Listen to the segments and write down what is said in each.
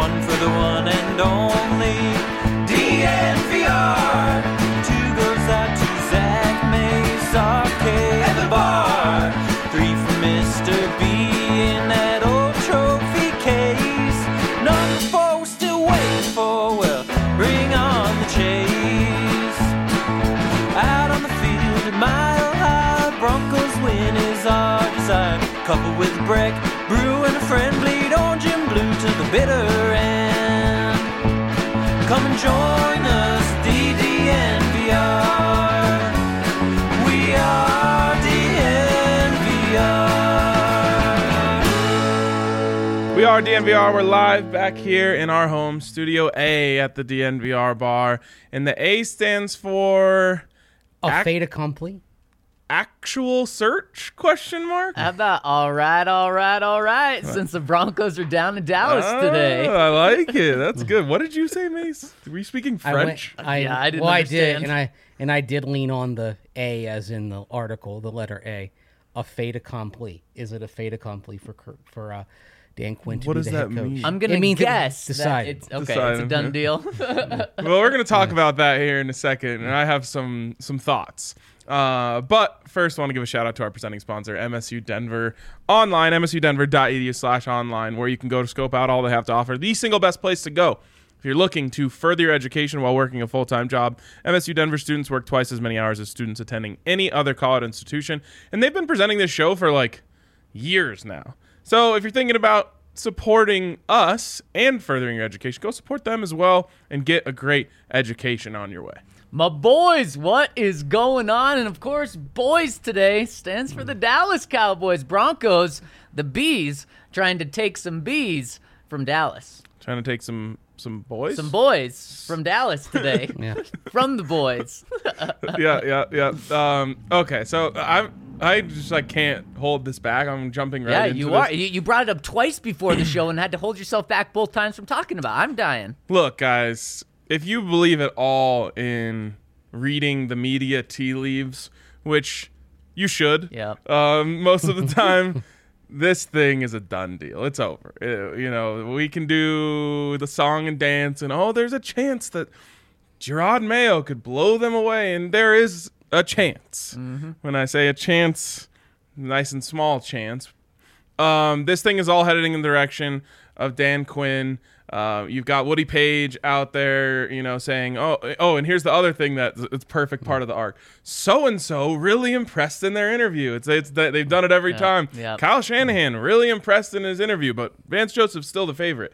one for the one and only DNVR. Two goes out to Zach Mace, RK at the bar. Three for Mr. B in that old trophy case. Number four we're still waiting for, well, bring on the chase. Out on the field at Mile High, Broncos win is our desire. Coupled with a break, brew and a friend, bleed orange and blue to the bitter end. Come and join us, DNVR. We are DNVR. We are DNVR. We're live back here in our home, Studio A at the DNVR bar. And the A stands for... A fait accompli? Actual search? Question mark? How about all right, since the Broncos are down in Dallas today. I like it. That's good. What did you say, Mace? Were you speaking French? I didn't Well, understand. I did, and I did lean on the A as in the article, the letter A. A fait accompli. Is it a fait accompli for Dan Quinn to What be does the head that coach? mean? I'm going to means guess it's that decided. it's okay. It's a Decided, done yeah. deal. Well, we're going to talk about that here in a second, and I have some thoughts. But first, I want to give a shout out to our presenting sponsor, MSU Denver Online, msudenver.edu/online, where you can go to scope out all they have to offer. The single best place to go if you're looking to further your education while working a full-time job. MSU Denver students work twice as many hours as students attending any other college institution, and they've been presenting this show for like years now. So if you're thinking about supporting us and furthering your education, go support them as well and get a great education on your way. My boys, what is going on? And of course, boys today stands for the Dallas Cowboys. Broncos, the Bees, trying to take some bees from Dallas. Trying to take some boys? Some boys from Dallas today. Yeah. From the boys. Yeah. Okay, so I just can't hold this back. I'm jumping right Yeah, into you this. are. You brought it up twice before the show and had to hold yourself back both times from talking about it. I'm dying. Look, guys, if you believe at all in reading the media tea leaves, which you should, Yeah. most of the time, this thing is a done deal. It's over. We can do the song and dance, and there's a chance that Gerard Mayo could blow them away, and there is a chance. Mm-hmm. When I say a chance, nice and small chance. This thing is all headed in the direction of Dan Quinn. You've got Woody Page out there, saying, oh, and here's the other thing it's perfect part of the arc. So-and-so really impressed in their interview. It's that they've done it every time. yeah. Kyle Shanahan really impressed in his interview, but Vance Joseph's still the favorite.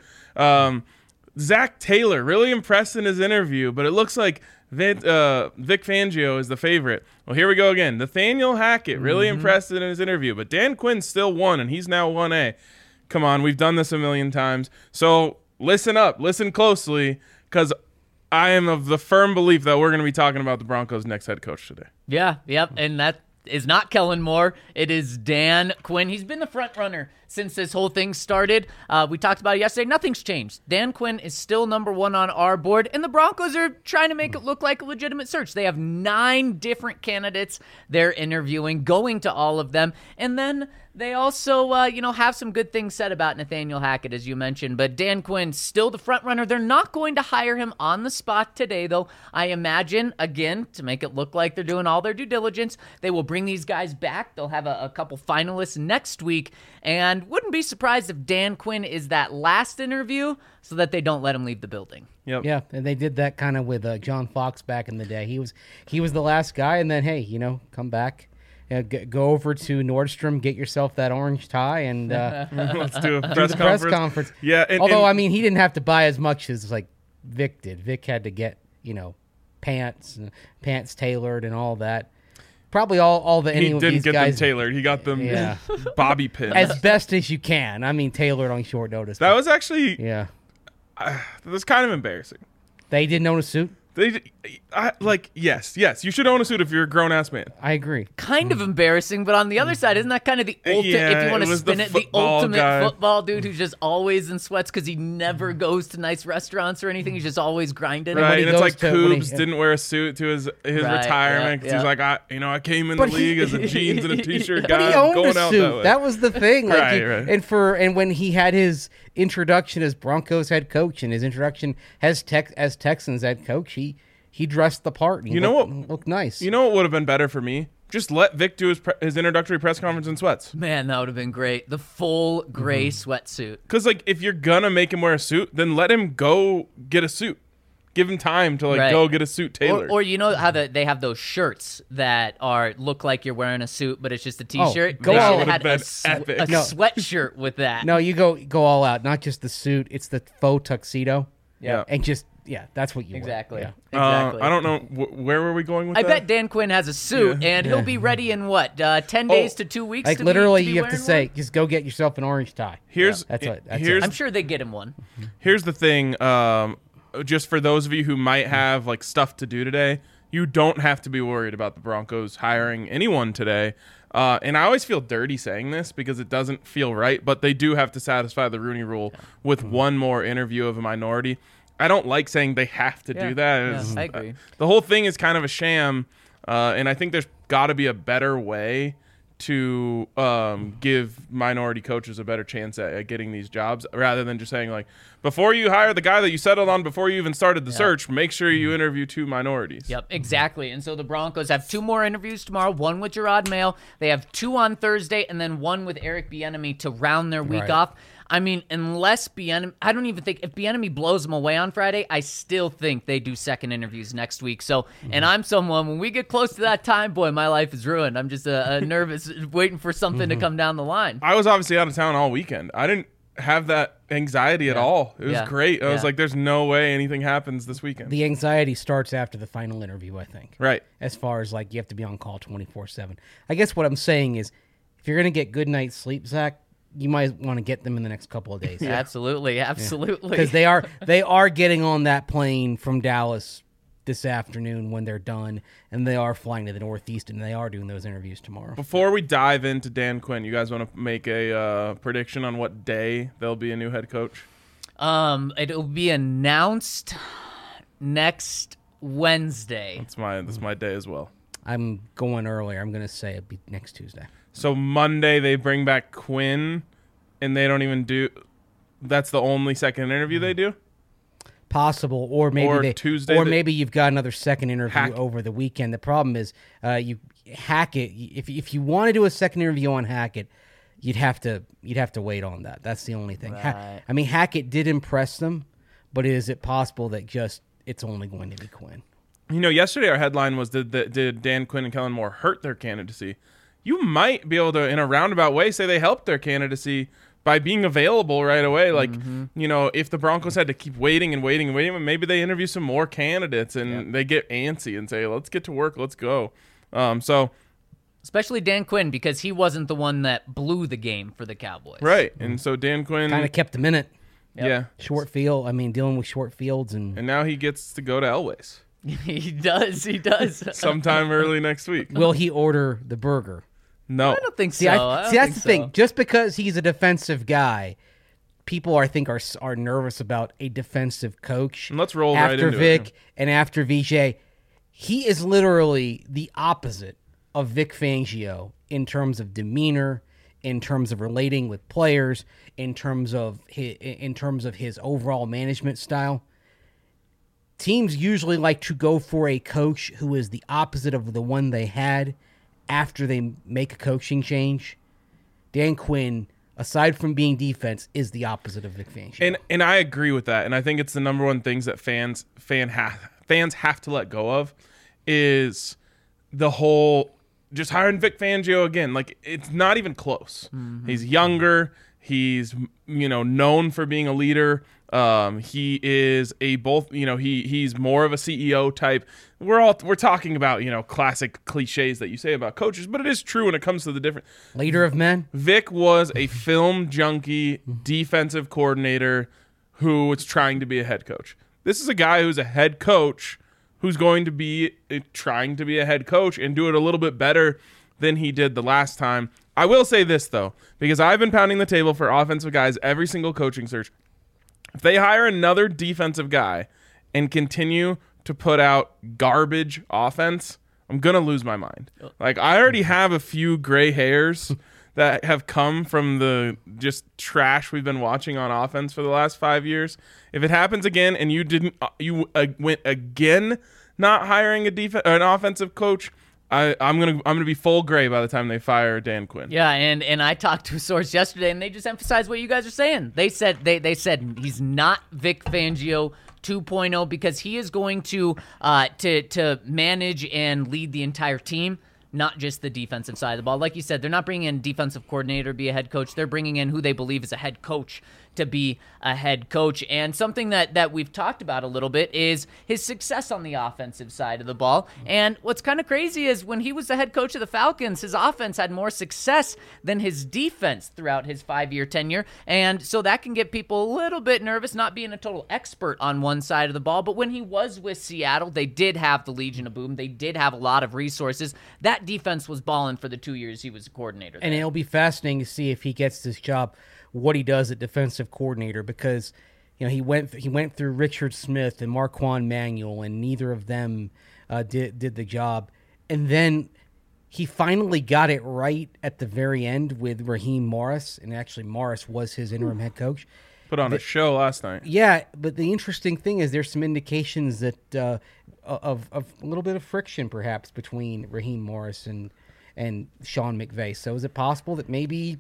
Zach Taylor really impressed in his interview, but it looks like Vic Fangio is the favorite. Well, here we go again. Nathaniel Hackett really impressed in his interview, but Dan Quinn still won, and he's now 1A. Come on, we've done this a million times. So listen up, listen closely, because I am of the firm belief that we're going to be talking about the Broncos' next head coach today. Yeah, yep, and that is not Kellen Moore. It is Dan Quinn. He's been the front runner since this whole thing started. We talked about it yesterday. Nothing's changed. Dan Quinn is still number one on our board, and the Broncos are trying to make it look like a legitimate search. They have 9 different candidates they're interviewing, going to all of them, and then they also, have some good things said about Nathaniel Hackett, as you mentioned. But Dan Quinn's still the front runner. They're not going to hire him on the spot today, though. I imagine, again, to make it look like they're doing all their due diligence, they will bring these guys back. They'll have a couple finalists next week. And wouldn't be surprised if Dan Quinn is that last interview so that they don't let him leave the building. Yep. Yeah, and they did that kind of with John Fox back in the day. He was the last guy, and then, hey, come back. Go over to Nordstrom, get yourself that orange tie, and Let's do a do press the press conference. conference. Yeah. Although, he didn't have to buy as much as Vic did. Vic had to get, pants tailored and all that. Probably all the he any of didn't these get guys them tailored. He got them Yeah. bobby pins. as best as you can. Tailored on short notice. That was actually yeah. that was kind of embarrassing. They didn't own a suit. Yes, you should own a suit if you're a grown-ass man. I agree. Kind of embarrassing, but on the other side, isn't that kind of the ultimate, Yeah, if you want it to was spin the it, the football ultimate guy. football dude who's just always in sweats because he never goes to nice restaurants or anything. He's just always grinding. Right, he and it's goes like to- when he- Coobs didn't wear a suit to his Right, retirement because yeah, he's yeah. like, I came in But the he- league as a jeans and a t-shirt But guy he owned going a out suit. that way. That was the thing. Right. And when he had his introduction as Broncos head coach and his introduction as Texans head coach, he dressed the part. And he looked nice. You know what would have been better for me? Just let Vic do his introductory press conference in sweats. Man, that would have been great. The full gray sweatsuit. Because, like, if you're going to make him wear a suit, then let him go get a suit. Give him time to, like, go get a suit tailored. Or you know how they have those shirts that look like you're wearing a suit, but it's just a T-shirt? Go They all should have out. had a Epic. sweatshirt with that. No, you go all out. Not just the suit; it's the faux tuxedo. Yeah. And just that's what you Exactly. wear. Exactly. I don't know. Where were we going with I that? bet Dan Quinn has a suit, and he'll be ready in 10 days to 2 weeks? Like to literally, be you have to wearing say, one? just go get yourself an orange tie. Here's That's it. here's I'm sure they get him one. Here's the thing. Just for those of you who might have like stuff to do today, you don't have to be worried about the Broncos hiring anyone today. And I always feel dirty saying this because it doesn't feel right, but they do have to satisfy the Rooney Rule with one more interview of a minority. I don't like saying they have to do that. Yeah, I agree. The whole thing is kind of a sham, and I think there's got to be a better way to give minority coaches a better chance at getting these jobs rather than just saying, like, before you hire the guy that you settled on before you even started the search, make sure you interview 2 minorities. Yep, exactly. And so the Broncos have 2 more interviews tomorrow, one with Gerard Mayo. They have 2 on Thursday, and then one with Eric Bieniemy to round their week off. I mean, unless Bieniemy, I don't even think, if Bieniemy blows them away on Friday, I still think they do second interviews next week. So, and I'm someone, when we get close to that time, boy, my life is ruined. I'm just nervous, waiting for something to come down the line. I was obviously out of town all weekend. I didn't have that anxiety at all. It was great. I was like, there's no way anything happens this weekend. The anxiety starts after the final interview, I think. Right. As far as, like, you have to be on call 24/7. I guess what I'm saying is, if you're going to get good night's sleep, Zach, you might want to get them in the next couple of days. Absolutely. Because they are getting on that plane from Dallas this afternoon when they're done, and they are flying to the Northeast, and they are doing those interviews tomorrow. Before we dive into Dan Quinn, you guys want to make a prediction on what day there'll be a new head coach? It'll be announced next Wednesday. That's my day as well. I'm going earlier. I'm going to say it'll be next Tuesday. So Monday they bring back Quinn, and they don't even do. That's the only second interview they do. Possible, or maybe Tuesday. Maybe you've got another second interview over the weekend. The problem is, you Hackett. If you want to do a second interview on Hackett, you'd have to wait on that. That's the only thing. Right. I mean, Hackett did impress them, but is it possible that it's only going to be Quinn? You know, yesterday our headline was did Dan Quinn and Kellen Moore hurt their candidacy? You might be able to, in a roundabout way, say they helped their candidacy by being available right away. Like, you know, if the Broncos had to keep waiting, maybe they interview some more candidates and they get antsy and say, let's get to work, let's go. Especially Dan Quinn, because he wasn't the one that blew the game for the Cowboys. Right. And so Dan Quinn Kind of kept them in it. Yeah. Short field. I mean, dealing with short fields and now he gets to go to Elway's He does. sometime early next week. will he order the burger? No. I don't think See, so. that's the thing. Just because he's a defensive guy, people I think are nervous about a defensive coach. And let's roll after right into Vic it. and after VJ. He is literally the opposite of Vic Fangio in terms of demeanor, in terms of relating with players, in terms of his overall management style. Teams usually like to go for a coach who is the opposite of the one they had after they make a coaching change. Dan Quinn, aside from being defense, is the opposite of Vic Fangio. And I agree with that. And I think it's the number one things that fans have to let go of is the whole just hiring Vic Fangio again. Like, it's not even close. He's younger. He's, known for being a leader. He is he's more of a CEO type. We're talking about, classic cliches that you say about coaches, but it is true when it comes to the different Leader of men. Vic was a film junkie defensive coordinator who was trying to be a head coach. This is a guy who's a head coach who's going to be trying to be a head coach and do it a little bit better than he did the last time. I will say this, though, because I've been pounding the table for offensive guys every single coaching search. If they hire another defensive guy and continue to put out garbage offense, I'm going to lose my mind. Like, I already have a few gray hairs that have come from the just trash we've been watching on offense for the last 5 years. If it happens again and you went again not hiring an offensive coach, I'm gonna be full gray by the time they fire Dan Quinn. Yeah, and I talked to a source yesterday, and they just emphasized what you guys are saying. They said he's not Vic Fangio 2.0 because he is going to manage and lead the entire team, not just the defensive side of the ball. Like you said, they're not bringing in a defensive coordinator to be a head coach. They're bringing in who they believe is a head coach to be a head coach. And something that we've talked about a little bit is his success on the offensive side of the ball. And what's kind of crazy is when he was the head coach of the Falcons, his offense had more success than his defense throughout his 5-year tenure. And so that can get people a little bit nervous, not being a total expert on one side of the ball. But when he was with Seattle, they did have the Legion of Boom. They did have a lot of resources. That defense was balling for the 2 years he was a coordinator there. And it'll be fascinating to see if he gets this job, what he does at defensive coordinator, because he went through Richard Smith and Marquand Manuel, and neither of them did the job. And then he finally got it right at the very end with Raheem Morris, and actually Morris was his interim head coach. Put on a show last night. Yeah, but the interesting thing is there's some indications that of a little bit of friction perhaps between Raheem Morris and Sean McVay. So is it possible that maybe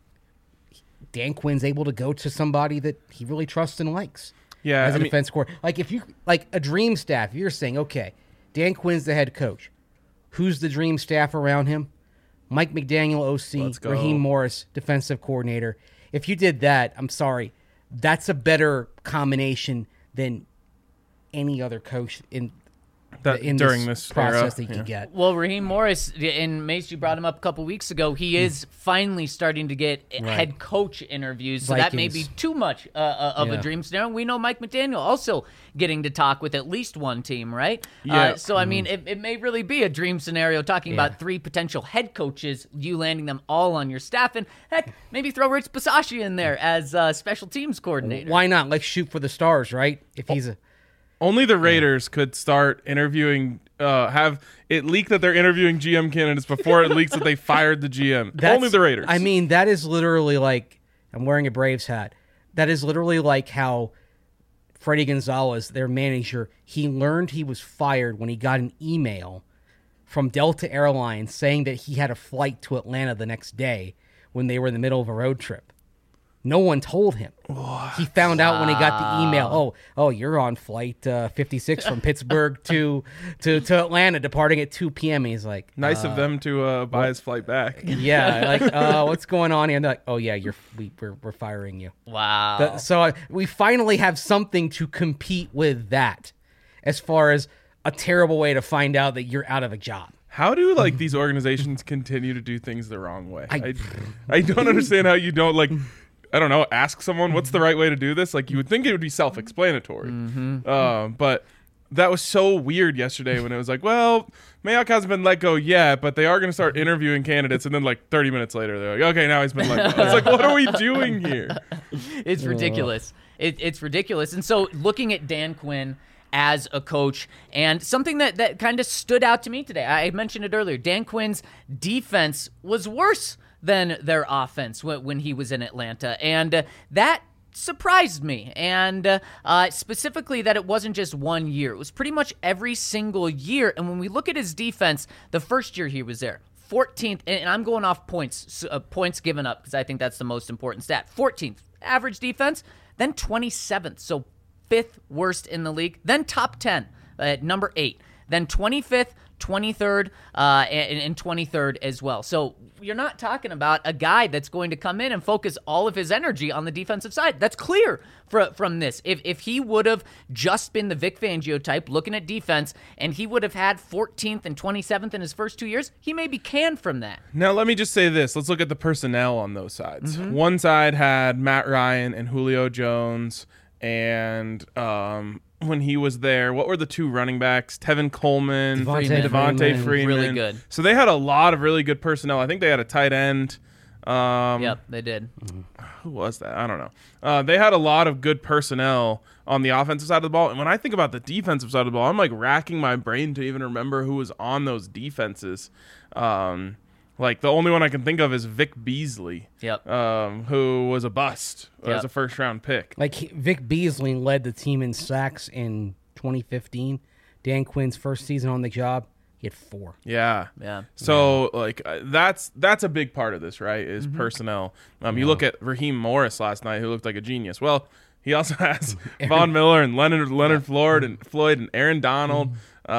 Dan Quinn's able to go to somebody that he really trusts and likes? Yeah, as a defense coordinator. Like if you like a dream staff, you're saying, okay, Dan Quinn's the head coach. Who's the dream staff around him? Mike McDaniel, OC, Raheem Morris, defensive coordinator. If you did that, I'm sorry, that's a better combination than any other coach in during this process era, that you could get. Well, Raheem Morris, and Mace, you brought him up a couple weeks ago. He is finally starting to get head coach interviews, so that may be too much of a dream scenario. We know Mike McDaniel also getting to talk with at least one team, right? Yeah. So, I mean, it may really be a dream scenario talking about 3 potential head coaches, you landing them all on your staff, and heck, maybe throw Rich Bisaccia in there as special teams coordinator. Why not? Let's shoot for the stars, right? If he's a... Only the Raiders could start interviewing, have it leak that they're interviewing GM candidates before it leaks that they fired the GM. Only the Raiders. I mean, that is literally like, I'm wearing a Braves hat. That is literally like how Freddie Gonzalez, their manager, he learned he was fired when he got an email from Delta Airlines saying that he had a flight to Atlanta the next day when they were in the middle of a road trip. No one told him. What? He found out when he got the email. Oh, you're on flight 56 from Pittsburgh to Atlanta, departing at 2 p.m. And he's like, nice of them to buy his flight back. Yeah, like, what's going on here? And they're like, oh yeah, we're firing you. Wow. So we finally have something to compete with that, as far as a terrible way to find out that you're out of a job. How do these organizations continue to do things the wrong way? I don't understand how you don't I don't know, ask someone what's the right way to do this. Like, you would think it would be self-explanatory. But that was so weird yesterday when it was like, well, Mayock hasn't been let go yet, but they are going to start interviewing candidates. And then 30 minutes later, they're like, okay, now he's been let go. It's like, what are we doing here? It's ridiculous. It's ridiculous. And so looking at Dan Quinn as a coach, and something that kind of stood out to me today, I mentioned it earlier, Dan Quinn's defense was worse than their offense when he was in Atlanta. And that surprised me. And specifically that it wasn't just 1 year. It was pretty much every single year. And when we look at his defense, the first year he was there, 14th, and I'm going off points given up because I think that's the most important stat. 14th average defense, then 27th, so 5th worst in the league, then top 10 at number 8, then 25th, 23rd, and 23rd as well. So you're not talking about a guy that's going to come in and focus all of his energy on the defensive side. That's clear from this. If he would have just been the Vic Fangio type looking at defense and he would have had 14th and 27th in his first 2 years, he may be canned from that. Now, let me just say this. Let's look at the personnel on those sides. One side had Matt Ryan and Julio Jones, and when he was there, what were the 2 running backs? Tevin Coleman, Devontae Freeman. Really good. So they had a lot of really good personnel. I think they had a tight end. Yep, they did. Who was that? I don't know. They had a lot of good personnel on the offensive side of the ball. And when I think about the defensive side of the ball, I'm racking my brain to even remember who was on those defenses. Like, the only one I can think of is Vic Beasley, Yep. who was a bust Yep. as a first-round pick. Like Vic Beasley led the team in sacks in 2015. Dan Quinn's first season on the job, he had 4. Yeah. Yeah. So, like, that's a big part of this, right, is personnel. You look at Raheem Morris last night, who looked like a genius. Well, he also has Von Miller and Leonard Floyd and Aaron Donald.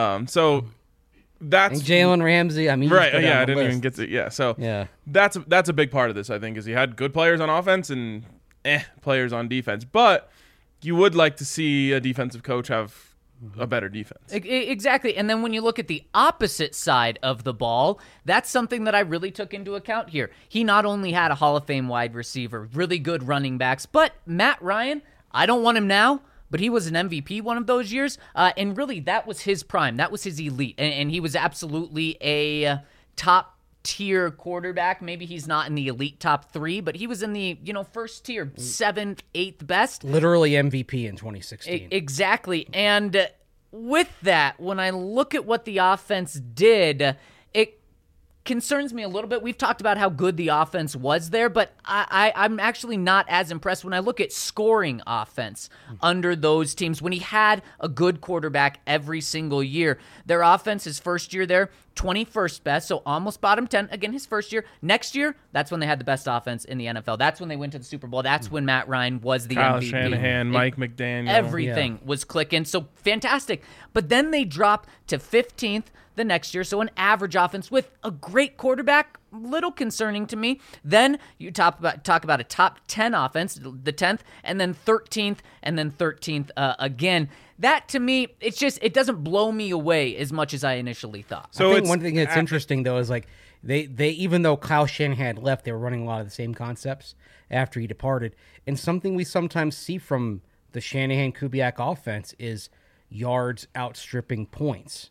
So that's And Jalen Ramsey, I mean, you right. just go down Yeah, I the didn't even list. get to. Yeah, so Yeah. that's a big part of this, I think, is he had good players on offense and players on defense. But you would like to see a defensive coach have a better defense. Exactly. And then when you look at the opposite side of the ball, that's something that I really took into account here. He not only had a Hall of Fame wide receiver, really good running backs, but Matt Ryan, I don't want him now, but he was an MVP one of those years. And really, that was his prime. That was his elite. And he was absolutely a top tier quarterback. Maybe he's not in the elite top 3, but he was in the, first tier, 7th, 8th best. Literally MVP in 2016. Exactly. And with that, when I look at what the offense did, it concerns me a little bit. We've talked about how good the offense was there, but I'm actually not as impressed when I look at scoring offense under those teams. When he had a good quarterback every single year, their offense, his first year there, 21st best, so almost bottom 10. Again, his first year. Next year, that's when they had the best offense in the NFL. That's when they went to the Super Bowl. That's when Matt Ryan was the Kyle MVP. Shanahan, Mike McDaniel. Everything was clicking. So fantastic. But then they drop to 15th the next year. So an average offense with a great quarterback, little concerning to me. Then you talk about a top 10 offense, the 10th, and then 13th, and then 13th again. That to me, it doesn't blow me away as much as I initially thought. So I think it's one thing that's interesting though is like they even though Kyle Shanahan had left, they were running a lot of the same concepts after he departed. And something we sometimes see from the Shanahan-Kubiak offense is yards outstripping points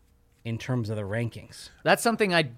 in terms of the rankings. That's something I'm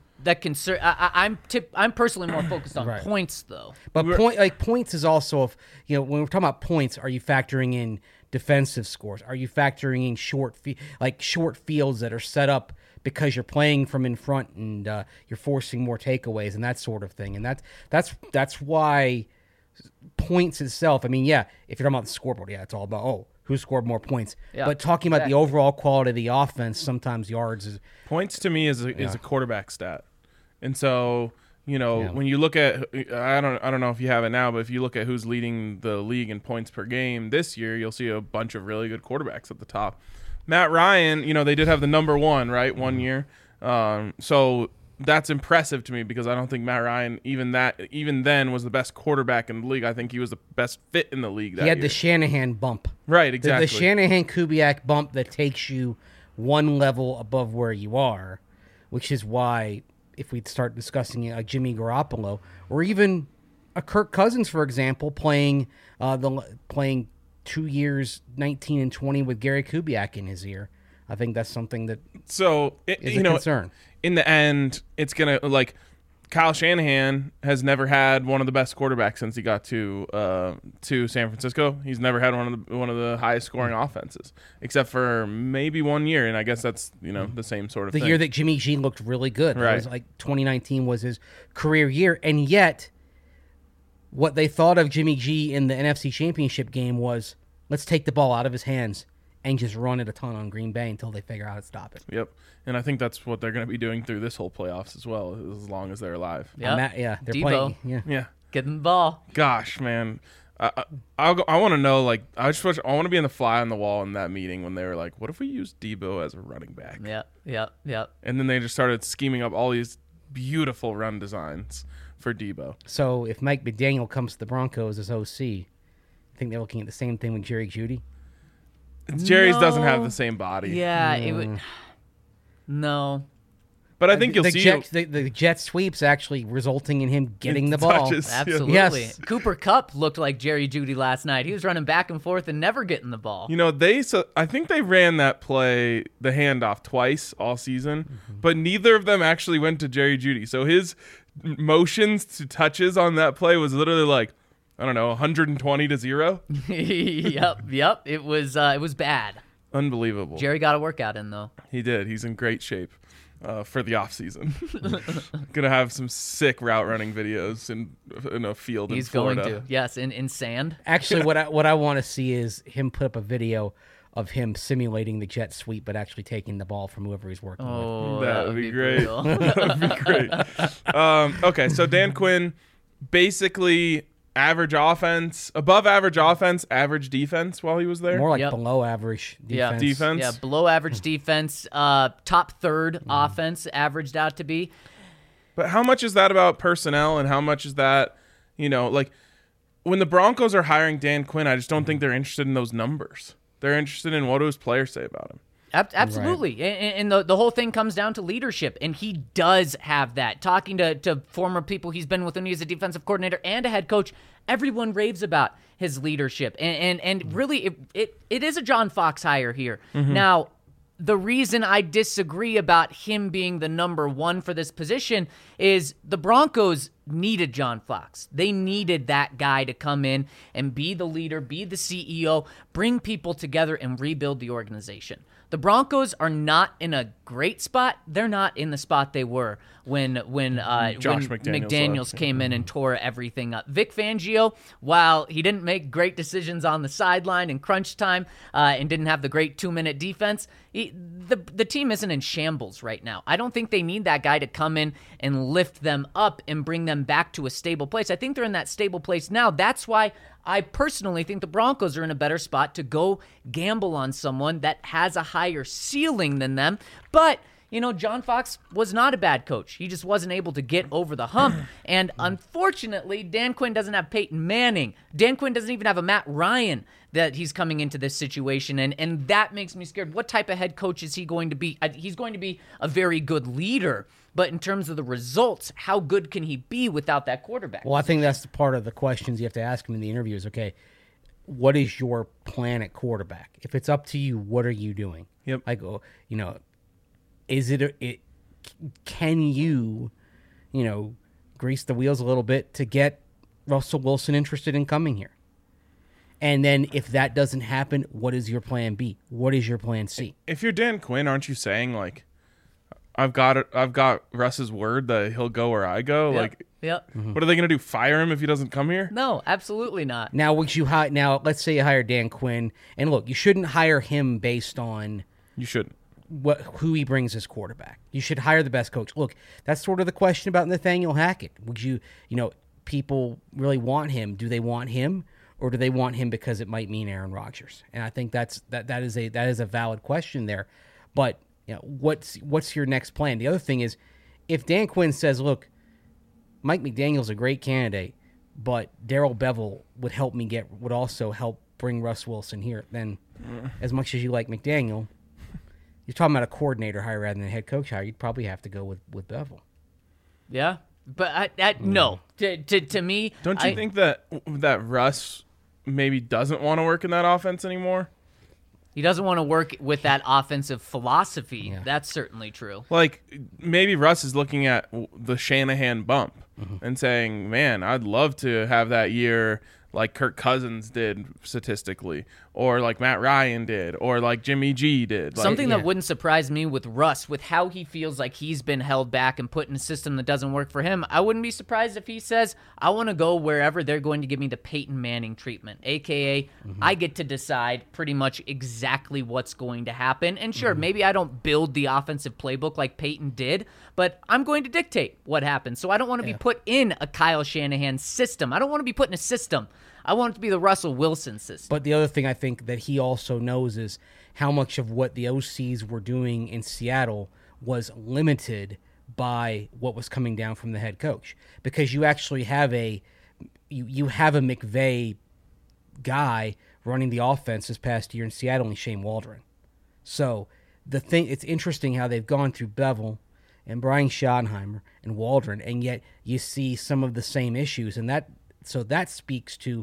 personally more focused on Right. points though. But points is also when we're talking about points, are you factoring in defensive scores? Are you factoring in short fields that are set up because you're playing from in front and you're forcing more takeaways and that sort of thing? And that's why points itself. I mean, yeah, if you're talking about the scoreboard, yeah, it's all about who scored more points. Yeah, but talking about the overall quality of the offense, sometimes yards is points to me is a quarterback stat. And so, when you look at, I don't know if you have it now, but if you look at who's leading the league in points per game this year, you'll see a bunch of really good quarterbacks at the top. Matt Ryan, they did have the number 1, right, one year. So that's impressive to me because I don't think Matt Ryan, even then, was the best quarterback in the league. I think he was the best fit in the league that he had year. the Shanahan bump. Right, exactly. The Shanahan-Kubiak bump that takes you one level above where you are, which is why if we start discussing a Jimmy Garoppolo or even a Kirk Cousins, for example, playing 2 years, 19 and 20 with Gary Kubiak in his ear, I think that's something that is a concern. In the end, it's going to, Kyle Shanahan has never had one of the best quarterbacks since he got to San Francisco. He's never had one of the highest scoring offenses, except for maybe 1 year, and I guess that's the same sort of thing. The year that Jimmy G looked really good, Right. It was 2019 was his career year, and yet what they thought of Jimmy G in the NFC Championship game was let's take the ball out of his hands and just run it a ton on Green Bay until they figure out how to stop it. Yep, and I think that's what they're going to be doing through this whole playoffs as well, as long as they're alive. Yep. They're Debo. playing. Yeah. Yeah. Get them the ball. Gosh, man. I want to know, I want to be in the fly on the wall in that meeting when they were like, what if we use Debo as a running back? Yep. And then they just started scheming up all these beautiful run designs for Debo. So if Mike McDaniel comes to the Broncos as OC, I think they're looking at the same thing with Jerry Jeudy. Jerry's doesn't have No. the same body. Yeah, it would. No. But I think you'll the see the jet sweeps actually resulting in him getting the ball. touches. Absolutely. Yes. Cooper Kupp looked like Jerry Jeudy last night. He was running back and forth and never getting the ball. I think they ran that play, the handoff, twice all season, but neither of them actually went to Jerry Jeudy. So his motions to touches on that play was literally 120 to 0. Yep. It was bad. Unbelievable. Jerry got a workout in though. He did. He's in great shape. for the off season. Gonna have some sick route running videos in a field He's in Florida. going to. Yes, in sand. Actually, what I want to see is him put up a video of him simulating the jet sweep, but actually taking the ball from whoever he's working with. Oh, That would be great. brutal. That'd be great. Okay, so Dan Quinn, basically average offense, above average offense, average defense while he was there. More like Yep. below average Yeah. defense. Defense. Yeah, below average defense, top third offense averaged out to be. But how much is that about personnel, and how much is that, like when the Broncos are hiring Dan Quinn, I just don't think they're interested in those numbers. They're interested in what do his players say about him. Absolutely. And the whole thing comes down to leadership. And he does have that. Talking to former people he's been with when he was a defensive coordinator and a head coach, everyone raves about his leadership. And really, it is a John Fox hire here. Now, the reason I disagree about him being the number one for this position is the Broncos needed John Fox. They needed that guy to come in and be the leader, be the CEO, bring people together and rebuild the organization. The Broncos are not in a great spot. They're not in the spot they were when McDaniels came in and tore everything up. Vic Fangio, while he didn't make great decisions on the sideline in crunch time and didn't have the great 2-minute defense, the team isn't in shambles right now. I don't think they need that guy to come in and lift them up and bring them back to a stable place. I think they're in that stable place now. That's why I personally think the Broncos are in a better spot to go gamble on someone that has a higher ceiling than them. But, John Fox was not a bad coach. He just wasn't able to get over the hump. And unfortunately, Dan Quinn doesn't have Peyton Manning. Dan Quinn doesn't even have a Matt Ryan that he's coming into this situation. And that makes me scared. What type of head coach is he going to be? He's going to be a very good leader. But in terms of the results, how good can he be without that quarterback? Well, I think that's the part of the questions you have to ask him in the interview is, okay, what is your plan at quarterback? If it's up to you, what are you doing? Yep. Like, is can you, grease the wheels a little bit to get Russell Wilson interested in coming here? And then if that doesn't happen, what is your plan B? What is your plan C? If you're Dan Quinn, aren't you saying like, I've got Russ's word that he'll go where I go? Like, Yep. what are they going to do? Fire him if he doesn't come here? No, absolutely not. Now, let's say you hire Dan Quinn, and look, you shouldn't hire him based on You shouldn't. who he brings as quarterback. You should hire the best coach. Look, that's sort of the question about Nathaniel Hackett. Would people really want him? Do they want him, or do they want him because it might mean Aaron Rodgers? And I think that is a valid question there. But what's your next plan? The other thing is, if Dan Quinn says, look, Mike McDaniel's a great candidate, but Darrell Bevell would also help bring Russ Wilson here, then as much as you like McDaniel, you're talking about a coordinator hire rather than a head coach hire. You'd probably have to go with Bevell. Yeah, but no. To me, Don't you think that Russ maybe doesn't want to work in that offense anymore? he doesn't want to work with that offensive philosophy? Yeah. That's certainly true. Like, maybe Russ is looking at the Shanahan bump and saying, man, I'd love to have that year like Kirk Cousins did statistically, or like Matt Ryan did, or like Jimmy G did. Like, Something that wouldn't surprise me with Russ, with how he feels like he's been held back and put in a system that doesn't work for him, I wouldn't be surprised if he says, I want to go wherever they're going to give me the Peyton Manning treatment, a.k.a. I get to decide pretty much exactly what's going to happen. And sure, maybe I don't build the offensive playbook like Peyton did, but I'm going to dictate what happens. So I don't want to be put in a Kyle Shanahan system. I don't want to be put in a system. I want it to be the Russell Wilson system. But the other thing I think that he also knows is how much of what the OCs were doing in Seattle was limited by what was coming down from the head coach. Because you actually have you have a McVay guy running the offense this past year in Seattle, and Shane Waldron. So it's interesting how they've gone through Bevell and Brian Schottenheimer and Waldron, and yet you see some of the same issues, and that speaks to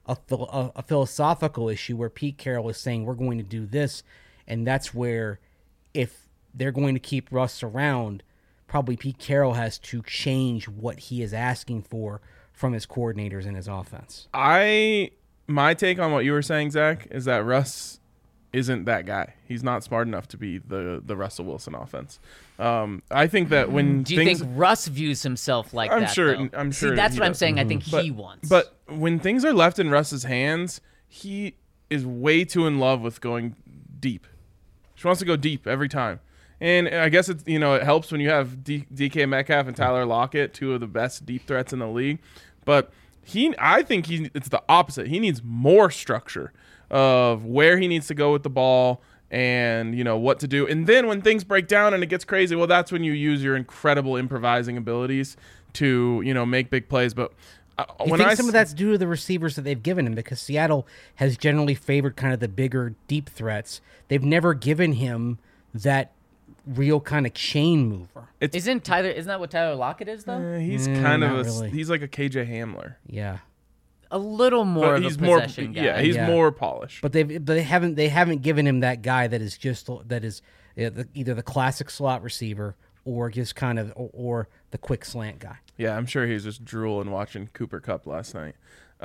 a philosophical issue where Pete Carroll is saying we're going to do this, and that's where if they're going to keep Russ around, probably Pete Carroll has to change what he is asking for from his coordinators in his offense. My take on what you were saying, Zach, is that Russ isn't that guy. He's not smart enough to be the Russell Wilson offense. I think that when Do you think Russ views himself like I'm that? sure. though? I'm sure. See, that's he what I'm does. saying. I think But- he wants. But when things are left in Russ's hands, he is way too in love with going deep. She wants to go deep every time. And I guess it's it helps when you have DK Metcalf and Tyler Lockett, two of the best deep threats in the league. But I think it's the opposite. He needs more structure of where he needs to go with the ball and what to do. And then when things break down and it gets crazy, well, that's when you use your incredible improvising abilities to make big plays. But You think some of that's due to the receivers that they've given him, because Seattle has generally favored kind of the bigger, deep threats. They've never given him that real kind of chain mover. isn't that what Tyler Lockett is though? he's kind not of really. he's like a KJ Hamler. Yeah, A little more But of he's a more possession guy. yeah, he's Yeah. more polished. but they haven't given him that guy that is either the classic slot receiver or just kind of or the quick slant guy. Yeah, I'm sure he's just drooling watching Cooper Kupp last night.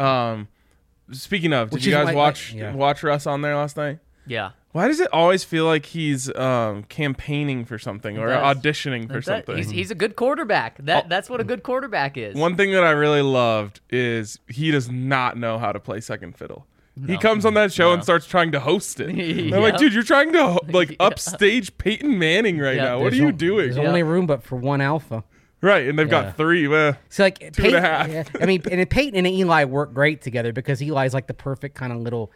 Speaking of, did Which you is guys why- watch Russ on there last night? Yeah. Why does it always feel like he's campaigning for something or does. auditioning for something? He's a good quarterback. That's what a good quarterback is. One thing that I really loved is he does not know how to play second fiddle. He comes on that show and starts trying to host it. And I'm like, dude, you're trying to upstage Peyton Manning right Yeah. now. What are you doing? There's only room but for one alpha. Right, and they've Yeah. got three. Well, So like Two and a half. Yeah, I mean, and Peyton and Eli work great together because Eli's like the perfect kind of little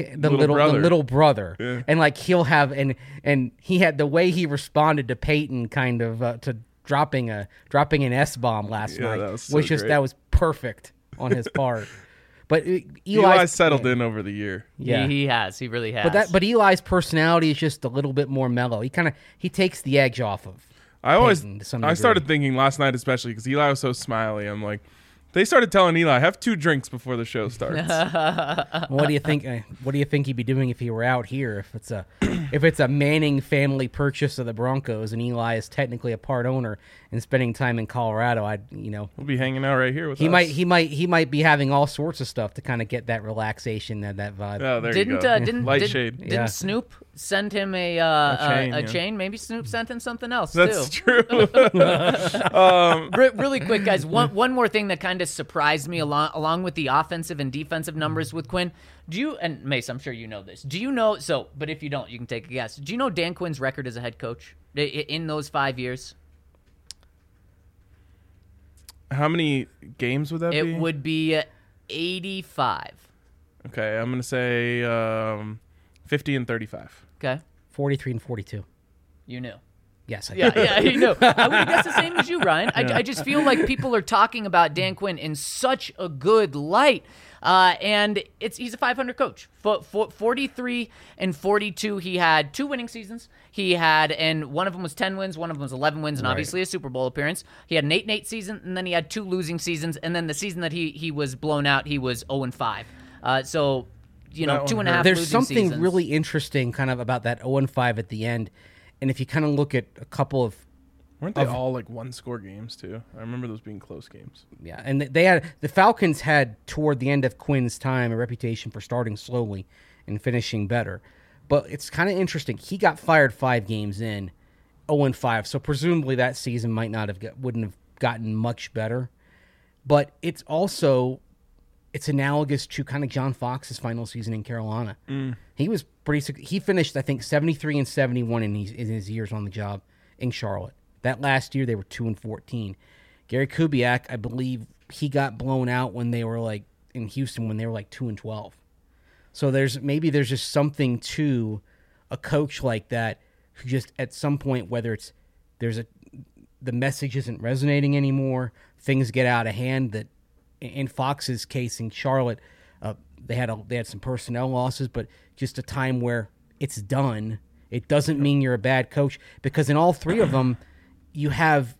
brother, Yeah. and like he'll have and he had the way he responded to Peyton kind of to dropping an S-bomb last Yeah, night that was so was great. that was perfect on his part. But Eli's settled in over the year. Yeah. He has. He really has. But Eli's personality is just a little bit more mellow. He takes the edge off of. Peyton to some I degree. started thinking last night, especially because Eli was so smiley. I'm like, they started telling Eli, have 2 drinks before the show starts. What do you think? What do you think he'd be doing if he were out here? If it's a Manning family purchase of the Broncos and Eli is technically a part owner and spending time in Colorado, We'll be hanging out right here with he us. he might be having all sorts of stuff to kind of get that relaxation and that vibe. Oh, there didn't you go. Light shade. Yeah. Snoop send him a chain, yeah. chain? Maybe Snoop sent him something else That's too. true. Really quick, guys. One more thing that kind of surprised me along with the offensive and defensive numbers with Quinn. Do you, and Mace, I'm sure you know this. Do you know? But if you don't, you can take a guess. Do you know Dan Quinn's record as a head coach in those 5 years? How many games would that be? It would be 85. Okay, I'm going to say 50 and 35. Okay, 43 and 42. you knew. Yes, I Yeah, you know. I would guess the same as you, Ryan. I just feel like people are talking about Dan Quinn in such a good light. And he's a 500 coach. 43 and 42, he had 2 winning seasons. And one of them was 10 wins, one of them was 11 wins, and obviously a Super Bowl appearance. He had an 8-8 season, and then he had 2 losing seasons, and then the season that he was blown out, he was 0-5. So, That one 2.5 hurt. There's losing something seasons. really interesting kind of about that 0-5 at the end. And if you kind of look at a couple of Weren't they all like 1-score games too? I remember those being close games. Yeah, and the Falcons had toward the end of Quinn's time a reputation for starting slowly and finishing better. But it's kind of interesting. He got fired 5 games in, 0-5. So presumably that season wouldn't have gotten much better. But it's analogous to kind of John Fox's final season in Carolina. He was he finished I think 73 and 71 in his years on the job in Charlotte. That last year they were 2-14. Gary Kubiak, I believe he got blown out when they were like in Houston when they were like 2-12. So there's just something to a coach like that who just at some point, whether it's the message isn't resonating anymore, things get out of hand. That in Fox's case in Charlotte, they had some personnel losses, but just a time where it's done. It doesn't mean you're a bad coach because in all 3 of them, you have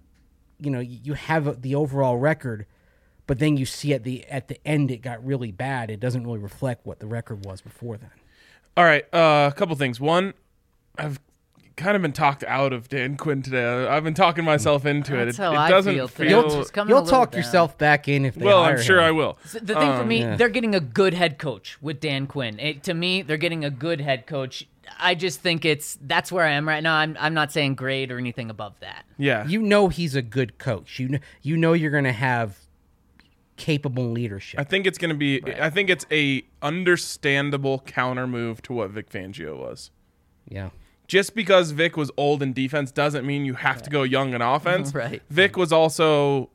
the overall record, but then you see at the end it got really bad. It doesn't really reflect what the record was before then. All right, a couple things. One, I've kind of been talked out of Dan Quinn today. I've been talking myself into it. That's It how I doesn't feel today. feel. Just coming a You'll little talk down. yourself back in if they Well, hire I'm sure him. I will. So the thing for me, yeah. they're getting a good head coach with Dan Quinn. To me, they're getting a good head coach. I just think that's where I am right now. I'm not saying grade or anything above that. Yeah. You know he's a good coach. You know you're going to have capable leadership. I think it's going to be. Right. I think it's a understandable counter move to what Vic Fangio was. Yeah. Just because Vic was old in defense doesn't mean you have to go young in offense. Right. Vic was also,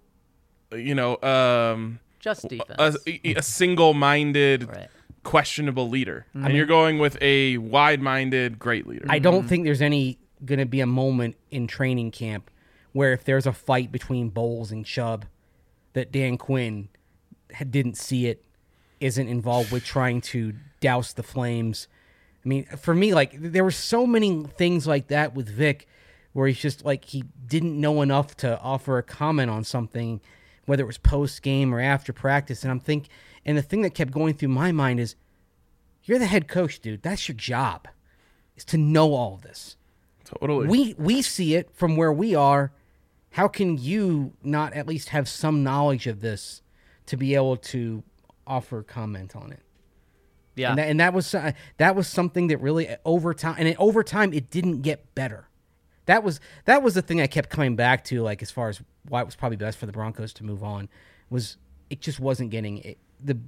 Just defense. a single-minded, Right. questionable leader, and you're going with a wide-minded, great leader. I don't think there's going to be a moment in training camp where if there's a fight between Bowles and Chubb that Dan Quinn didn't see it, isn't involved with trying to douse the flames. I mean, for me, like, there were so many things like that with Vic where he's just like, he didn't know enough to offer a comment on something, whether it was post-game or after practice. And and the thing that kept going through my mind is, you're the head coach, dude. That's your job, is to know all of this. Totally. We see it from where we are. How can you not at least have some knowledge of this to be able to offer comment on it? Yeah. And that was something that really over time it didn't get better. That was the thing I kept coming back to, like, as far as why it was probably best for the Broncos to move on, was it just wasn't getting it.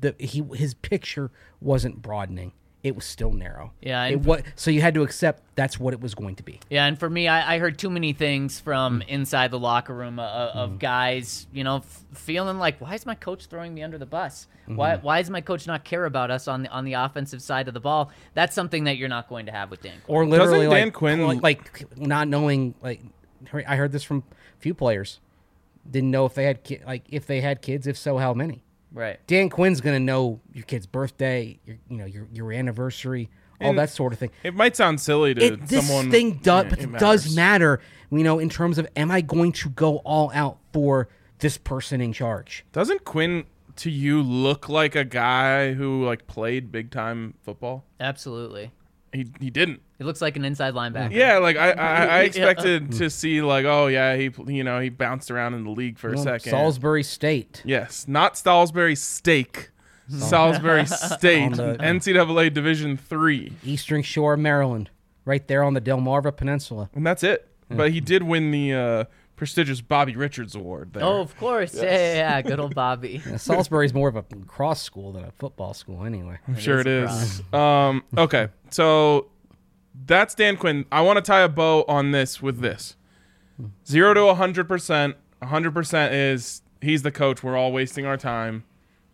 His picture wasn't broadening. It was still narrow. Yeah, So you had to accept that's what it was going to be. Yeah, and for me, I heard too many things from inside the locker room of guys, feeling like, why is my coach throwing me under the bus? Why does my coach not care about us on the offensive side of the ball? That's something that you're not going to have with Dan Quinn. Or literally, Doesn't Dan Quinn like not knowing, like, I heard this from a few players, didn't know if they had if they had kids, if so, how many. Right. Dan Quinn's going to know your kid's birthday, your anniversary, all that sort of thing. It might sound silly to This someone. thing does, it does matters. matter, in terms of, am I going to go all out for this person in charge? Doesn't Quinn to you look like a guy who like played big time football? Absolutely. He didn't. He looks like an inside linebacker. Yeah, like I expected to see like, oh yeah, he bounced around in the league for a second. Salisbury State. Yes, not Salisbury Steak. Salisbury State, On the- NCAA Division III, Eastern Shore, Maryland, right there on the Delmarva Peninsula. and that's it. But he did win the prestigious Bobby Richards Award there. Oh, of course. Yeah. Good old Bobby. Salisbury's more of a cross school than a football school anyway. I'm sure it is is. Okay, so that's Dan Quinn. I want to tie a bow on this with this: 0 to 100%. 100% is he's the coach. We're all wasting our time.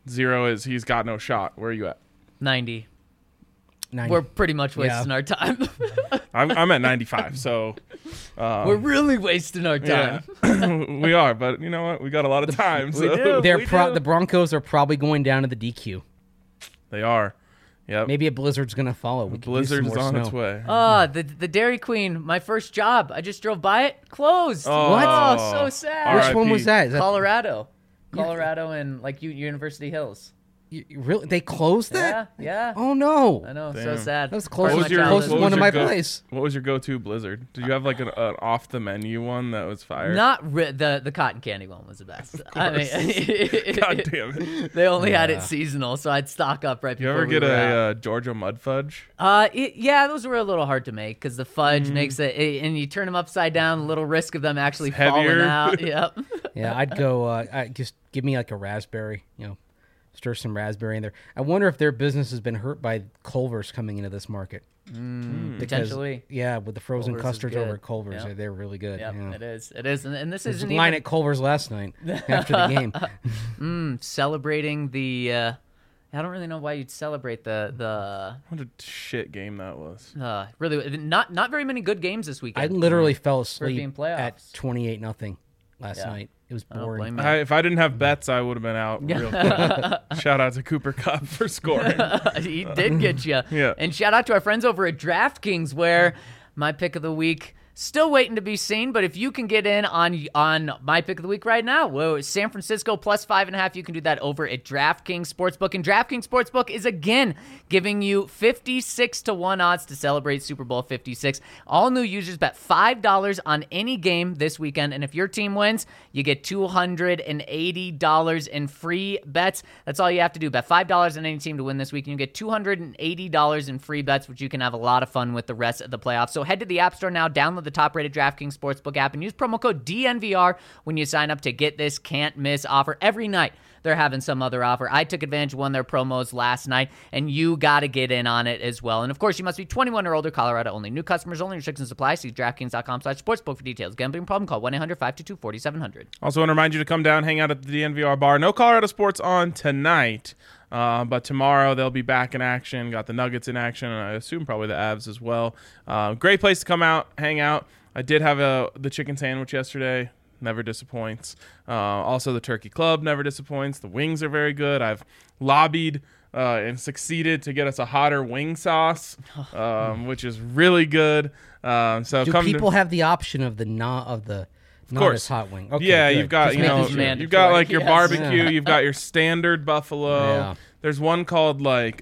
0 is he's got no shot. Where are you at? 90. 90. We're pretty much wasting our time. I'm at 95. So We're really wasting our time. yeah, we are. But you know what? We got a lot of time. So do. The Broncos are probably going down to the DQ. They are. Yep. Maybe a blizzard's going to follow. We could use some Blizzard's more on snow. its way. The Dairy Queen, my first job. I just drove by it. Closed. Oh. What? Oh, so sad. Which R.I.P. one was that? Is that Colorado and like University Hills. really? They closed that? Yeah. Oh no! I know. So Damn. sad. That was Part of closest, my childhood. closest one to my place. What was your go-to Blizzard? Did you have like an off the menu one that was fire? The cotton candy one was the best. I mean, God damn it! they only had it seasonal, so I'd stock up right You before. ever we get were out. a Georgia mud fudge? Yeah, those were a little hard to make because the fudge makes it, and you turn them upside down. A little risk of them actually It's falling heavier. out. Yep. Yeah, I'd go. Just give me like a raspberry. Stir some raspberry in there. I wonder if their business has been hurt by Culver's coming into this market. Because, Potentially. yeah, with the frozen Culver's is custards good. over at Culver's, Yep. they're really good. Yep. Yeah. It is, and this There's isn't a line even at Culver's last night after the game. celebrating the. I don't really know why you'd celebrate the What a shit game that was. really not very many good games this I weekend. literally fell being asleep playoffs. at 28-0 last Yeah. night. It was I don't boring. blame you. If I didn't have bets, I would have been out real quick. Shout out to Cooper Kupp for scoring. He did get you. Yeah. And shout out to our friends over at DraftKings, where my pick of the week Still waiting to be seen, but if you can get in on my pick of the week right now, whoa, San Francisco plus 5.5, you can do that over at DraftKings Sportsbook. And DraftKings Sportsbook is again giving you 56-1 odds to celebrate Super Bowl 56. All new users bet $5 on any game this weekend, and if your team wins, you get $280 in free bets. That's all you have to do. Bet $5 on any team to win this week, and you get $280 in free bets, which you can have a lot of fun with the rest of the playoffs. So head to the App Store now, download the top-rated DraftKings Sportsbook app, and use promo code DNVR when you sign up to get this can't-miss offer. Every night, they're having some other offer. I took advantage of one of their promos last night, and you got to get in on it as well. And, of course, you must be 21 or older, Colorado only. New customers only. Restrictions apply. See DraftKings.com/sportsbook for details. Gambling problem? Call 1-800-522-4700. Also want to remind you to come down, hang out at the DNVR bar. No Colorado sports on tonight, but tomorrow they'll be back in action. Got the Nuggets in action, and I assume probably the Avs as well. Great place to come out, hang out. I did have the chicken sandwich yesterday. Never disappoints. Also, the Turkey Club never disappoints. The wings are very good. I've lobbied and succeeded to get us a hotter wing sauce, which is really good. So Do people have the option of the not course. as hot wing? Okay, yeah, good. you've got Just make this you've mandatory. got like your Yes. barbecue. Yeah. You've got your standard buffalo. Yeah. There's one called like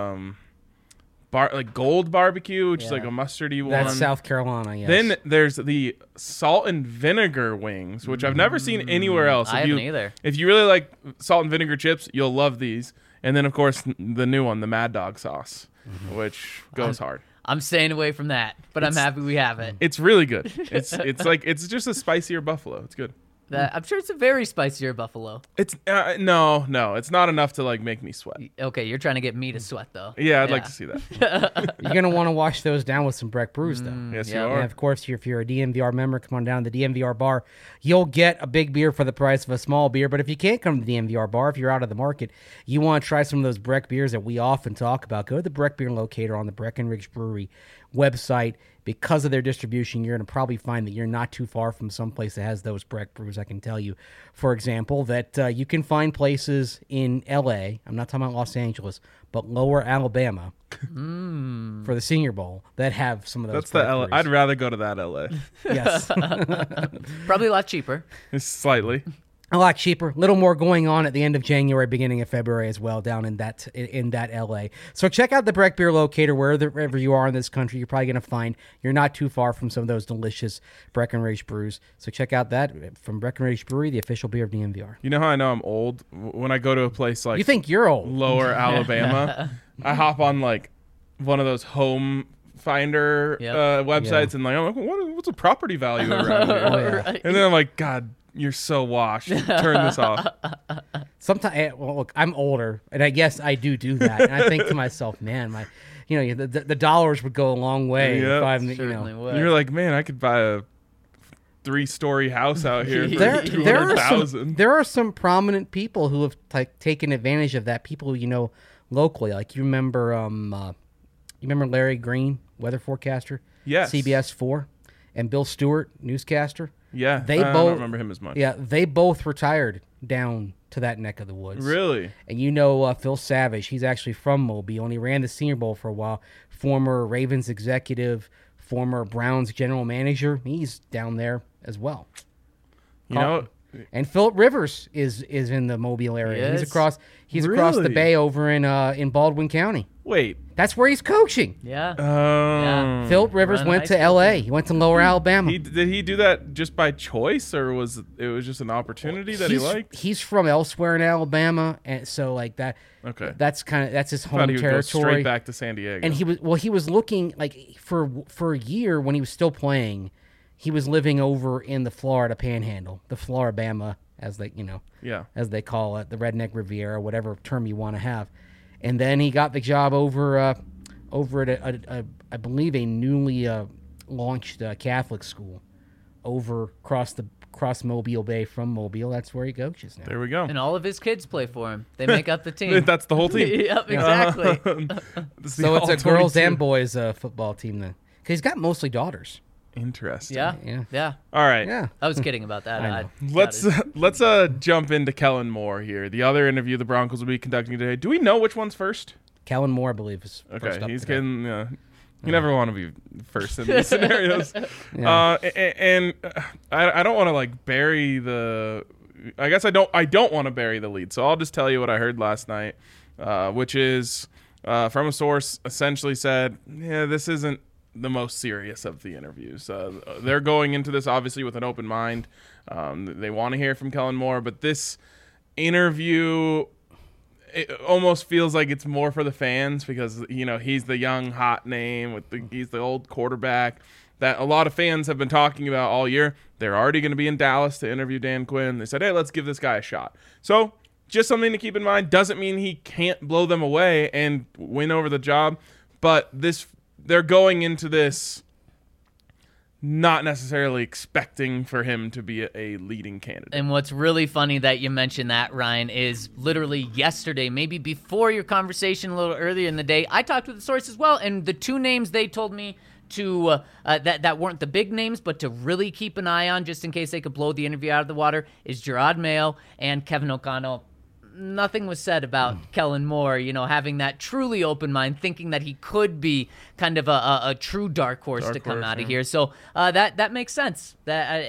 gold barbecue, which is Yeah. like a mustardy one. That's South Carolina. Yes. Then there's the salt and vinegar wings, which I've never seen anywhere else. I haven't either. If you really like salt and vinegar chips, you'll love these. And then, of course, the new one, the Mad Dog sauce, which goes hard. I'm staying away from that, but I'm happy we have it. It's really good. It's just a spicier buffalo. It's good. I'm sure it's a very spicier buffalo. It's no, it's not enough to like make me sweat. Okay, you're trying to get me to sweat, though. Yeah, I'd like to see that. You're gonna want to wash those down with some Breck Brews, though. Yes, yeah. you And are. of course, if you're a DMVR member, come on down to the DMVR bar. You'll get a big beer for the price of a small beer. But if you can't come to the DMVR bar, if you're out of the market, you want to try some of those Breck beers that we often talk about, go to the Breck Beer Locator on the Breckenridge Brewery website. Because of their distribution, you're going to probably find that you're not too far from some place that has those Breck brews. I can tell you, for example, that you can find places in L.A., I'm not talking about Los Angeles, but lower Alabama for the Senior Bowl that have some of those That's the Breck LA. brews. I'd rather go to that LA. Yes. Probably a lot cheaper. Slightly. A lot cheaper. A little more going on at the end of January, beginning of February as well, down in that LA. So check out the Breck Beer Locator wherever you are in this country. You're probably going to find you're not too far from some of those delicious Breckenridge brews. So check out that from Breckenridge Brewery, the official beer of DMVR. You know how I know I'm old? When I go to a place like You think you're old? lower Alabama, I hop on like one of those home finder Yep. websites and like, I'm like, what's a property value around here? Yeah. And then I'm like, God, you're so washed. Turn this off. Sometimes, well, look, I'm older, and I guess I do that. And I think to myself, man, the dollars would go a long way Yep. if I'm, Certainly would. And you're like, man, I could buy a 3-story house out here for there are some prominent people who have taken advantage of that. People who locally, like you remember Larry Green, weather forecaster, Yes. CBS 4, and Bill Stewart, newscaster. Yeah, They I both don't remember him as much. Yeah, they both retired down to that neck of the woods. Really? And Phil Savage, he's actually from Mobile, and he ran the Senior Bowl for a while. Former Ravens executive, former Browns general manager. He's down there as well. You know, And Philip Rivers is in the Mobile area. Yes. He's across the Really? bay over in Baldwin County. wait. That's where he's coaching. Yeah. Oh. Philip Rivers Run went high to school. L.A. He went to Lower Alabama. Did he do that just by choice, or was it just an opportunity that he liked? He's from elsewhere in Alabama, and so like that. Okay. That's his Thought home he would territory. go straight back to San Diego. And he was looking like for a year when he was still playing, he was living over in the Florida Panhandle, the Floribama, as they as they call it, the Redneck Riviera, whatever term you want to have. And then he got the job over at I believe a newly launched Catholic school over across Mobile Bay from Mobile. That's where he coaches now. There we go. And all of his kids play for him. They make up the team. That's the whole team. Yep, exactly. So it's a girls and boys football team then, because he's got mostly daughters. Interesting. Yeah. All right. Yeah. I was kidding about that. I know. Let's jump into Kellen Moore here. The other interview the Broncos will be conducting today. Do we know which one's first? Kellen Moore, I believe, is Okay, first up he's today. getting You never want to be first in these scenarios. And I don't want to like bury the. I guess I don't want to bury the lead. So I'll just tell you what I heard last night, which is from a source essentially said, yeah, this isn't the most serious of the interviews. They're going into this obviously with an open mind. They want to hear from Kellen Moore, but this interview, it almost feels like it's more for the fans because, you know, he's the young hot name he's the old quarterback that a lot of fans have been talking about all year. They're already going to be in Dallas to interview Dan Quinn. They said, hey, let's give this guy a shot. So just something to keep in mind. Doesn't mean he can't blow them away and win over the job, but they're going into this not necessarily expecting for him to be a leading candidate. And what's really funny that you mentioned that, Ryan, is literally yesterday, maybe before your conversation a little earlier in the day, I talked with the source as well, and the two names they told me to that weren't the big names, but to really keep an eye on just in case they could blow the interview out of the water is Jerod Mayo and Kevin O'Connell. Nothing was said about Kellen Moore, you know, having that truly open mind, thinking that he could be kind of a true dark horse to come out of here. So that makes sense.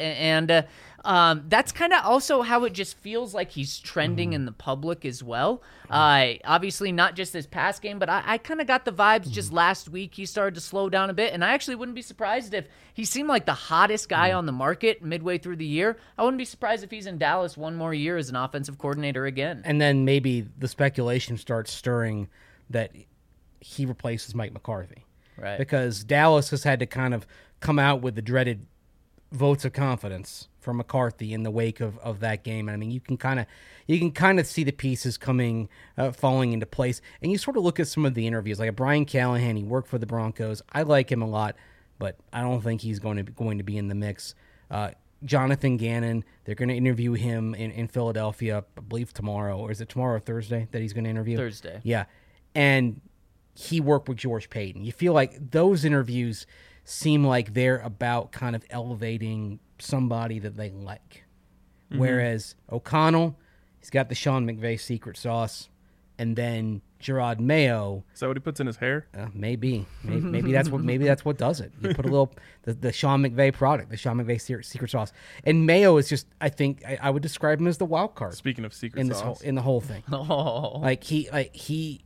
That's kind of also how it just feels like he's trending in the public as well. Obviously, not just this past game, but I kind of got the vibes just last week he started to slow down a bit, and I actually wouldn't be surprised if he seemed like the hottest guy on the market midway through the year. I wouldn't be surprised if he's in Dallas one more year as an offensive coordinator again. And then maybe the speculation starts stirring that he replaces Mike McCarthy. Right. Because Dallas has had to kind of come out with the dreaded votes of confidence for McCarthy in the wake of that game. And I mean, you can kind of see the pieces falling into place. And you sort of look at some of the interviews, like Brian Callahan. He worked for the Broncos. I like him a lot, but I don't think he's going to be in the mix. Jonathan Gannon, they're going to interview him in Philadelphia, I believe tomorrow. Or is it tomorrow or Thursday that he's going to interview? Thursday. Yeah. And he worked with George Payton. You feel like those interviews seem like they're about kind of elevating somebody that they like. Mm-hmm. Whereas O'Connell, he's got the Sean McVay secret sauce. And then Jerod Mayo. Is that what he puts in his hair? Maybe that's what does it. You put a little the Sean McVay product, the Sean McVay secret sauce, and Mayo is just. I think I would describe him as the wild card. Speaking of secret sauce, in the whole thing, Oh. he's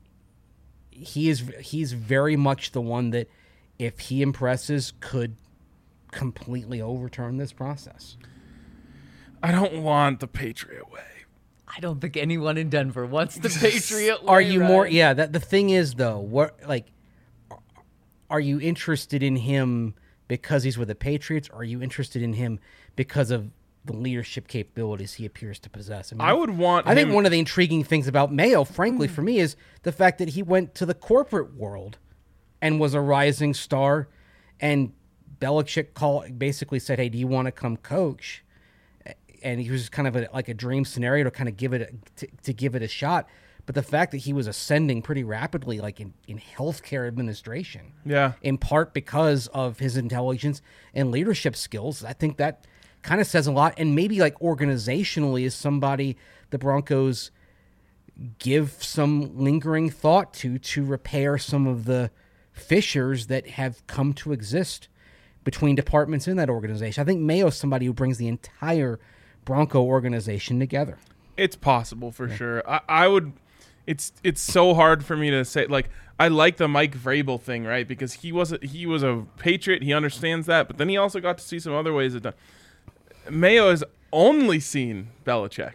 very much the one that, if he impresses, could completely overturn this process. I don't want the Patriot way. I don't think anyone in Denver wants the Patriot way. Are you right? more? Yeah. The thing is, though, are you interested in him because he's with the Patriots? Or are you interested in him because of the leadership capabilities he appears to possess? I think one of the intriguing things about Mayo, frankly, for me, is the fact that he went to the corporate world and was a rising star, and Belichick basically said, "Hey, do you want to come coach?" And he was kind of like a dream scenario to kind of give it a shot. But the fact that he was ascending pretty rapidly, like in healthcare administration, in part because of his intelligence and leadership skills, I think that kind of says a lot. And maybe like organizationally is somebody the Broncos give some lingering thought to repair some of the fissures that have come to exist between departments in that organization. I think Mayo's somebody who brings the entire Bronco organization together. It's possible for sure. I would. It's so hard for me to say. Like, I like the Mike Vrabel thing, right? Because he was a Patriot. He understands that, but then he also got to see some other ways of done. Mayo has only seen Belichick.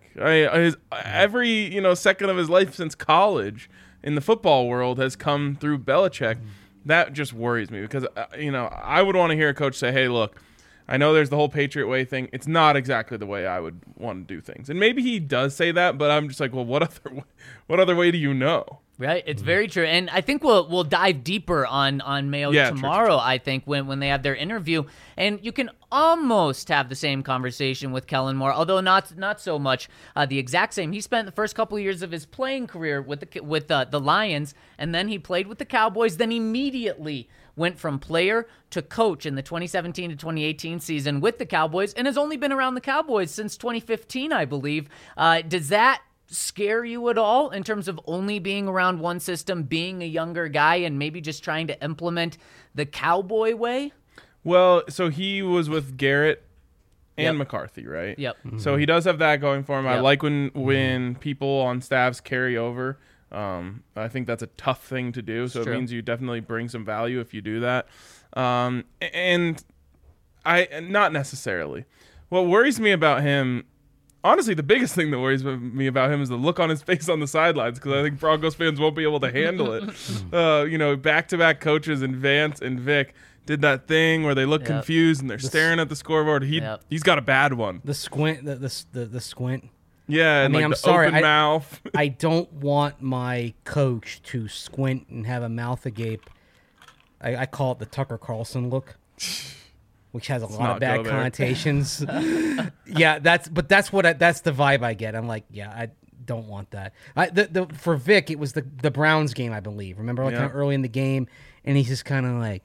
Every second of his life since college in the football world has come through Belichick. That just worries me because I would want to hear a coach say, "Hey, look, I know there's the whole Patriot way thing. It's not exactly the way I would want to do things." And maybe he does say that, but I'm just like, well, what other way do you know? Right, it's very true, and I think we'll dive deeper on Mayo tomorrow. True. I think when they have their interview, and you can almost have the same conversation with Kellen Moore, although not so much the exact same. He spent the first couple of years of his playing career with the Lions, and then he played with the Cowboys. Then immediately went from player to coach in the 2017 to 2018 season with the Cowboys, and has only been around the Cowboys since 2015, I believe. Does that scare you at all in terms of only being around one system, being a younger guy, and maybe just trying to implement the Cowboy way? Well, so he was with Garrett and Yep. McCarthy, right? Yep. So he does have that going for him. I Yep. like when people on staffs carry over. I think that's a tough thing to do. So True. it means you definitely bring some value if you do that. And I not necessarily. What worries me about him, honestly, the biggest thing that worries me about him is the look on his face on the sidelines, because I think Broncos fans won't be able to handle it. Back-to-back coaches and Vance and Vic did that thing where they look Yep. confused and they're staring at the scoreboard. Yep. He's got a bad one. The squint, the squint. Yeah, and mean, like I'm the sorry, open mouth. I don't want my coach to squint and have a mouth agape. I call it the Tucker Carlson look, which has a lot not of bad go there. connotations. Yeah, that's the vibe I get. I'm like, yeah, I don't want that. For Vic, it was the Browns game, I believe. Remember, like Yeah. kind of early in the game, and he's just kind of like,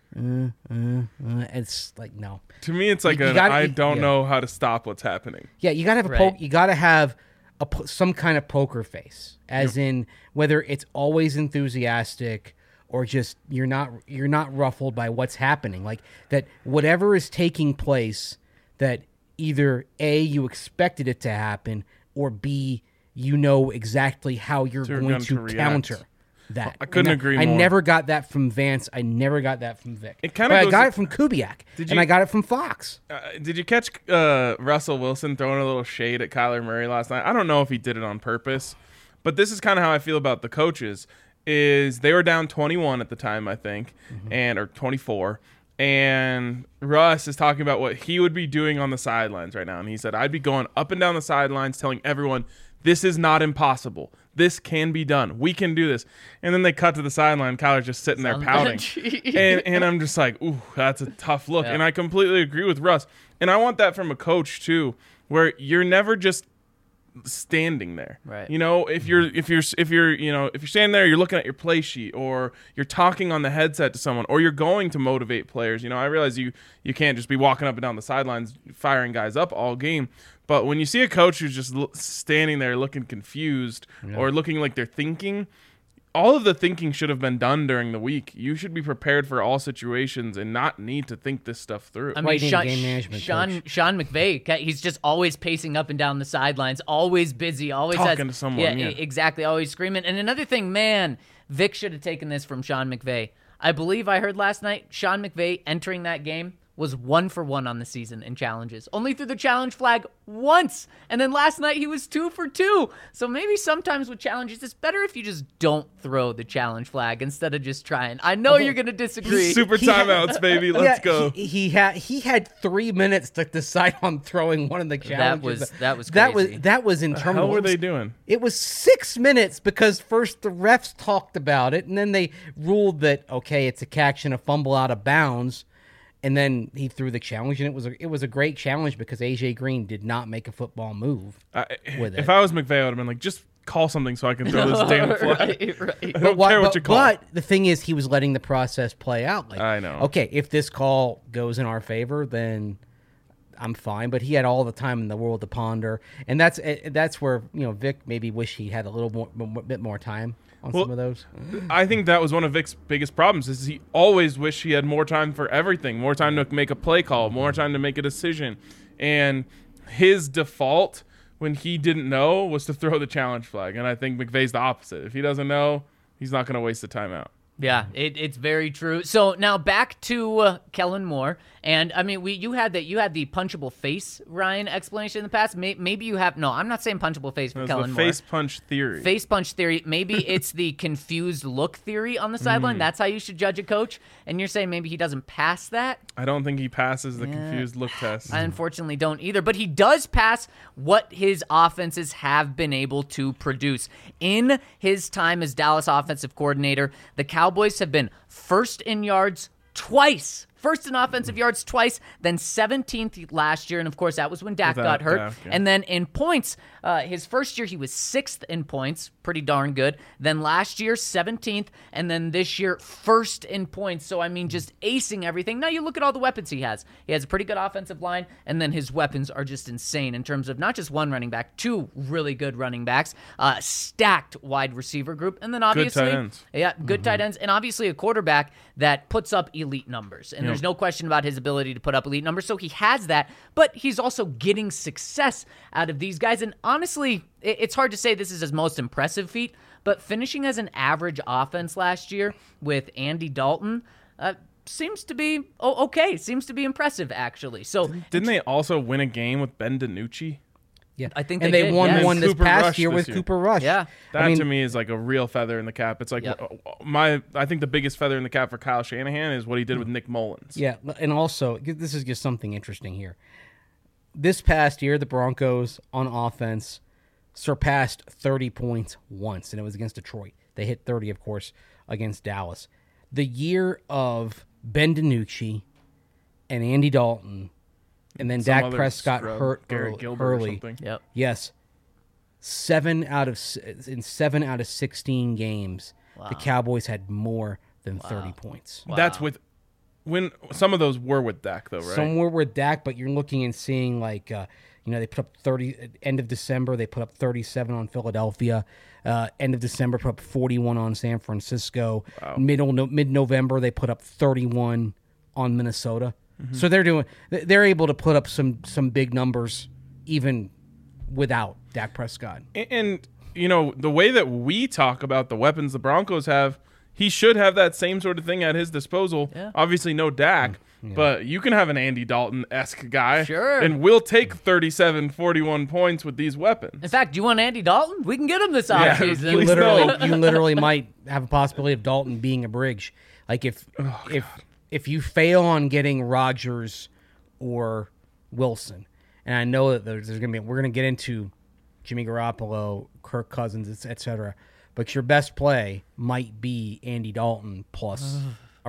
it's like no. To me, it's like You gotta- I don't yeah. know how to stop what's happening. Yeah, you gotta have Right. you gotta have some kind of poker face, as in whether it's always enthusiastic or just you're not ruffled by what's happening. Like that, whatever is taking place, that either A, you expected it to happen, or B, you know exactly how you're So you're going going to to react. counter that. I couldn't agree I more. never got that from Vance. I never got that from Vic. It kinda But I goes got to- it from Kubiak, Did and you- I got it from Fox. Did you catch Russell Wilson throwing a little shade at Kyler Murray last night? I don't know if he did it on purpose, but this is kind of how I feel about the coaches. Is they were down 21 at the time, I think, or 24, and Russ is talking about what he would be doing on the sidelines right now, and he said, "I'd be going up and down the sidelines, telling everyone this is not impossible. This can be done. We can do this." And then they cut to the sideline. Kyler's just sitting there pouting. and I'm just like, ooh, that's a tough look. Yeah. And I completely agree with Russ. And I want that from a coach too, where you're never just standing there. Right. You know, if you're standing there, you're looking at your play sheet, or you're talking on the headset to someone, or you're going to motivate players. You know, I realize you can't just be walking up and down the sidelines firing guys up all game. But when you see a coach who's just standing there looking confused or looking like they're thinking, all of the thinking should have been done during the week. You should be prepared for all situations and not need to think this stuff through. I Why mean, you need a game management coach. Sean McVay, he's just always pacing up and down the sidelines, always busy, always Talking to someone, yeah. Exactly, always screaming. And another thing, man, Vic should have taken this from Sean McVay. I believe I heard last night, Sean McVay entering that game was 1 for 1 on the season in challenges. Only threw the challenge flag once. And then last night he was 2 for 2. So maybe sometimes with challenges, it's better if you just don't throw the challenge flag instead of just trying. I know you're going to disagree. Super timeouts, baby. Let's go. He had 3 minutes to decide on throwing one of the challenges. that was crazy. that was interminable. How were they doing? It was 6 minutes because first the refs talked about it, and then they ruled that okay, it's a catch and a fumble out of bounds. And then he threw the challenge, and it was a great challenge because AJ Green did not make a football move with it. If I was McVay, I would have been like, just call something so I can throw this damn flag. right. I don't care what you call. But the thing is, he was letting the process play out. Like, I know. Okay, if this call goes in our favor, then I'm fine. But he had all the time in the world to ponder, and that's where Vic maybe wish he had a little bit more time on some of those. I think that was one of Vic's biggest problems is he always wished he had more time for everything, more time to make a play call, more time to make a decision. And his default when he didn't know was to throw the challenge flag. And I think McVay's the opposite. If he doesn't know, he's not going to waste the timeout. Yeah, it's very true. So now back to Kellen Moore, and I mean, you had the punchable face Ryan explanation in the past. Maybe you have no. I'm not saying punchable face for It was Kellen the Moore. face punch theory. Face punch theory. Maybe it's the confused look theory on the sideline. That's how you should judge a coach. And you're saying maybe he doesn't pass that. I don't think he passes the confused look test. I unfortunately don't either, but he does pass what his offenses have been able to produce. In his time as Dallas offensive coordinator, the Cowboys have been first in yards twice first in offensive yards twice, then 17th last year, and of course that was when Dak Without got hurt. Dak, yeah. And then in points, his first year he was 6th in points, pretty darn good. Then last year 17th, and then this year 1st in points. So I mean, just acing everything. Now you look at all the weapons he has. He has a pretty good offensive line, and then his weapons are just insane in terms of not just one running back, 2 really good running backs, stacked wide receiver group, and then obviously tight ends. yeah, good tight ends, and obviously a quarterback that puts up elite numbers. And there's no question about his ability to put up elite numbers. So he has that, but he's also getting success out of these guys. And honestly, it's hard to say this is his most impressive feat, but finishing as an average offense last year with Andy Dalton seems to be okay. Seems to be impressive, actually. So Didn't they also win a game with Ben DiNucci? Yeah, I think and they they did, won yes. one this Cooper past Rush year this with year. Cooper Rush. Yeah. That to me is like a real feather in the cap. It's like Yep. I think the biggest feather in the cap for Kyle Shanahan is what he did with Nick Mullins. Yeah, and also this is just something interesting here. This past year, the Broncos on offense surpassed 30 points once, and it was against Detroit. They hit 30, of course, against Dallas. The year of Ben DiNucci and Andy Dalton, and then Some Dak other Prescott scrub, hurt Garrett Gilbert or early. something. Yep. Yes, 7 out of 16 games, the Cowboys had more than 30 points. That's with when some of those were with Dak though, right? Somewhere with Dak, but you're looking and seeing like they put up 30 end of December. They put up 37 on Philadelphia. End of December, put up 41 on San Francisco. Wow. Mid-November, they put up 31 on Minnesota. So they're able to put up some big numbers even without Dak Prescott. And the way that we talk about the weapons the Broncos have, he should have that same sort of thing at his disposal. Yeah. Obviously, no Dak, but you can have an Andy Dalton-esque guy. Sure. And we'll take 37, 41 points with these weapons. In fact, do you want Andy Dalton? We can get him this Yeah, offseason. please You literally might have a possibility of Dalton being a bridge. Like if you fail on getting Rodgers or Wilson, and I know that we're gonna get into Jimmy Garoppolo, Kirk Cousins, etc. But your best play might be Andy Dalton plus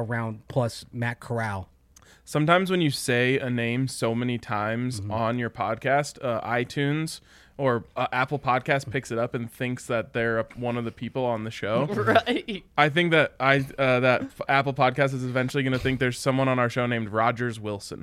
Matt Corral. Sometimes when you say a name so many times on your podcast, iTunes or Apple Podcast picks it up and thinks that they're one of the people on the show. Right. I think that Apple Podcast is eventually going to think there's someone on our show named Rogers Wilson.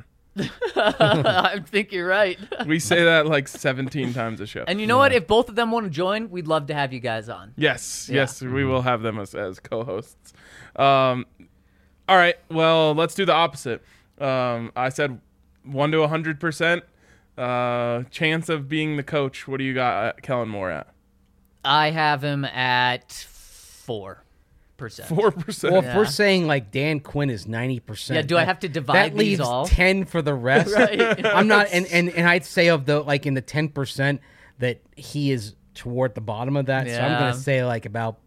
I think you're right. We say that like 17 times a show. And you know what? If both of them want to join, we'd love to have you guys on. Yes, Yeah. yes, we will have them as co-hosts. All right, well, let's do the opposite. I said 1 to 100% chance of being the coach. What do you got Kellen Moore at? I have him at 4%. 4%. Well, if we're saying like Dan Quinn is 90%, Yeah, do I have to divide that these leaves all? 10 for the rest. Right. I'm not, and I'd say of the like in the 10% that he is toward the bottom of that. So I'm Yeah. gonna say like about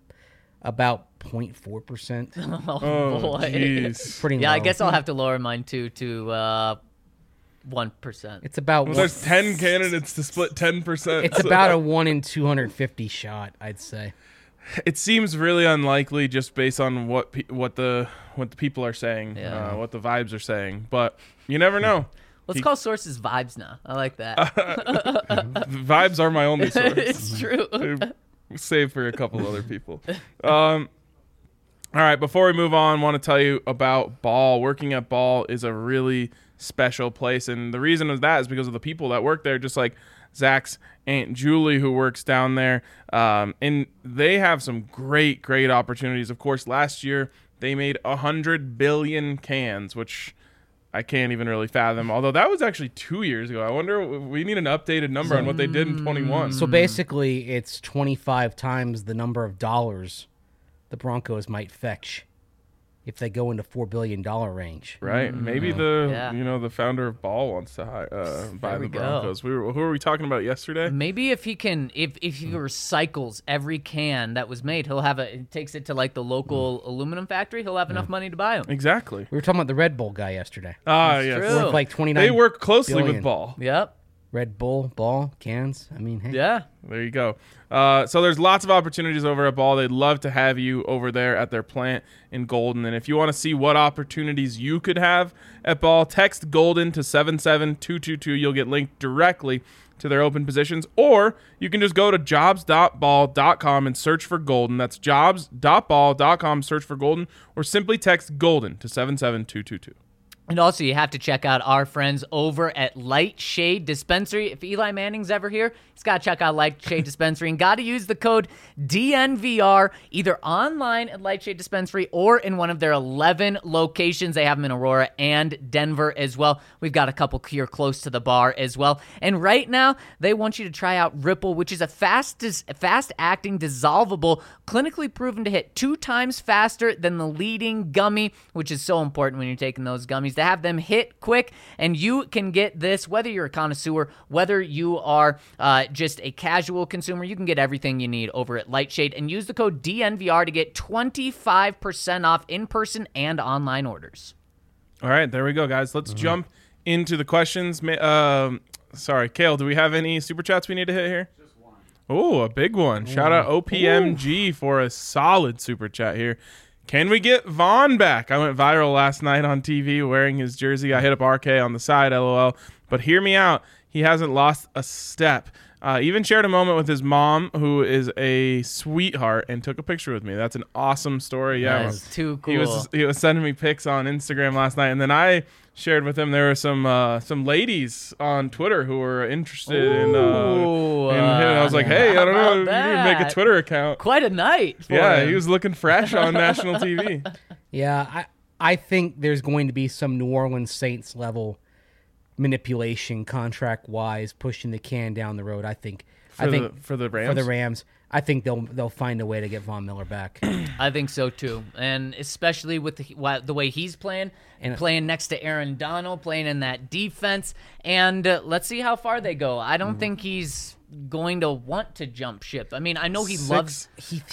0.4%. Oh, boy. jeez. Pretty Yeah, low. I guess I'll have to lower mine too to 1%. It's about Well, there's 10 candidates to split 10%. it's about a 1 in 250 shot, I'd say. It seems really unlikely just based on what the people are saying, Yeah. what the vibes are saying. But you never know. Let's call sources vibes now. I like that. Vibes are my only source. It's true. Save for a couple other people. All right, before we move on, I want to tell you about Ball. Working at Ball is a really special place, and the reason of that is because of the people that work there, just like Zach's Aunt Julie, who works down there, and they have some great opportunities. Of course, last year they made 100 billion cans, which I can't even really fathom, although that was actually 2 years ago. I wonder, we need an updated number on what they did in 21. So basically, it's 25 times the number of dollars the Broncos might fetch if they go into $4 billion range. Right? Maybe Yeah. the founder of Ball wants to buy There the we go. Broncos. Who were we talking about yesterday? Maybe if he can, if he recycles every can that was made, he'll have takes it to like the local aluminum factory. He'll have enough money to buy them. Exactly. We were talking about the Red Bull guy yesterday. Ah, yes. true. Worth like 29 They work closely billion. with Ball. Yep. Red Bull, ball, cans. I mean, hey. Yeah. There you go. So there's lots of opportunities over at Ball. They'd love to have you over there at their plant in Golden. And if you want to see what opportunities you could have at Ball, text Golden to 77222. You'll get linked directly to their open positions. Or you can just go to jobs.ball.com and search for Golden. That's jobs.ball.com, search for Golden. Or simply text Golden to 77222. And also, you have to check out our friends over at Light Shade Dispensary. If Eli Manning's ever here, he's got to check out Light Shade Dispensary and got to use the code DNVR either online at Light Shade Dispensary or in one of their 11 locations. They have them in Aurora and Denver as well. We've got a couple here close to the bar as well. And right now, they want you to try out Ripple, which is a fast-acting, dissolvable, clinically proven to hit 2 times faster than the leading gummy, which is so important when you're taking those gummies, to have them hit quick. And you can get this whether you're a connoisseur, whether you are just a casual consumer. You can get everything you need over at Lightshade and use the code DNVR to get 25% off in-person and online orders. All right, there we go, guys. Let's jump into the questions. Sorry, Kale, do we have any super chats we need to hit here? Just one. Oh, a big one. Shout out OPMG for a solid super chat here. Can we get Vaughn back? I went viral last night on TV wearing his jersey. I hit up RK on the side, LOL. But hear me out. He hasn't lost a step. Even shared a moment with his mom, who is a sweetheart, and took a picture with me. That's an awesome story. Yeah, That is too cool. He was sending me pics on Instagram last night, and then I shared with him. There were some ladies on Twitter who were interested in him. I was like, hey, I don't know, you can make a Twitter account. Quite a night for Yeah, him. he was looking fresh on national TV. Yeah, I think there's going to be some New Orleans Saints level manipulation contract wise, pushing the can down the road. I think For the Rams? For the Rams, I think they'll find a way to get Von Miller back. I think so too, and especially with the way he's playing, and playing next to Aaron Donald, playing in that defense, and let's see how far they go. I don't think he's going to want to jump ship. I mean, I know he loves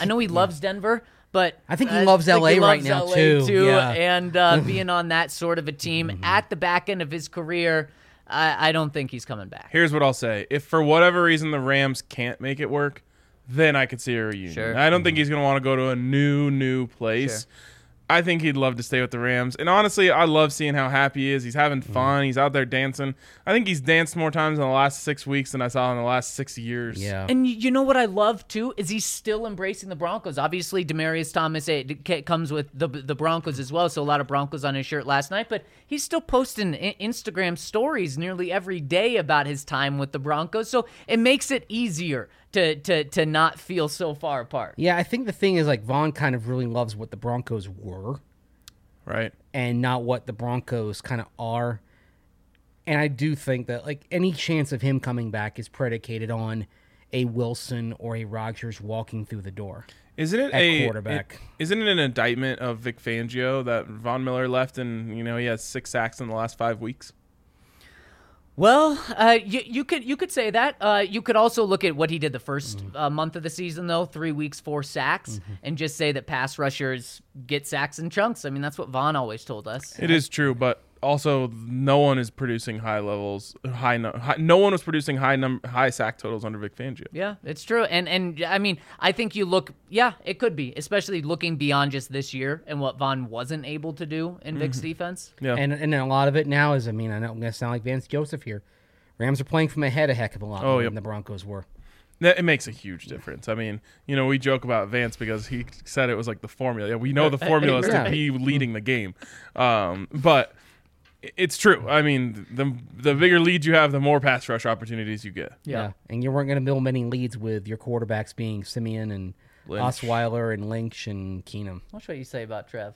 Denver, but I think he loves LA right now too. Yeah. And being on that sort of a team at the back end of his career, I don't think he's coming back. Here's what I'll say. If for whatever reason the Rams can't make it work, then I could see a reunion. Sure. I don't think he's going to want to go to a new place. Sure. I think he'd love to stay with the Rams. And honestly, I love seeing how happy he is. He's having fun. He's out there dancing. I think he's danced more times in the last 6 weeks than I saw in the last 6 years. Yeah. And you know what I love, too, is he's still embracing the Broncos. Obviously, Demaryius Thomas comes with the Broncos as well, so a lot of Broncos on his shirt last night. But he's still posting Instagram stories nearly every day about his time with the Broncos, so it makes it easier to not feel so far apart. Yeah, I think the thing is, like, Vaughn kind of really loves what the Broncos were. Right. And not what the Broncos kind of are. And I do think that, like, any chance of him coming back is predicated on a Wilson or a Rodgers walking through the door. Isn't it at quarterback? Isn't it an indictment of Vic Fangio that Von Miller left and, he has 6 sacks in the last 5 weeks? Well, you could say that. You could also look at what he did the first month of the season, though, 3 weeks, 4 sacks, and just say that pass rushers get sacks in chunks. I mean, that's what Vaughn always told us. It is true, but also no one is producing no one was producing high sack totals under Vic Fangio. Yeah, it's true. And I mean, I think you look, it could be, especially looking beyond just this year and what Vaughn wasn't able to do in Vic's defense. Yeah. And a lot of it now is, I know I'm going to sound like Vance Joseph here. Rams are playing from ahead a heck of a lot more than the Broncos were. It makes a huge difference. I mean, we joke about Vance because he said it was like the formula. Yeah, we know the formula is to be leading the game. But it's true. I mean, the bigger lead you have, the more pass rush opportunities you get. Yeah. And you weren't going to build many leads with your quarterbacks being Simeon and Lynch. Osweiler and Lynch and Keenum. Watch what you say about Trev.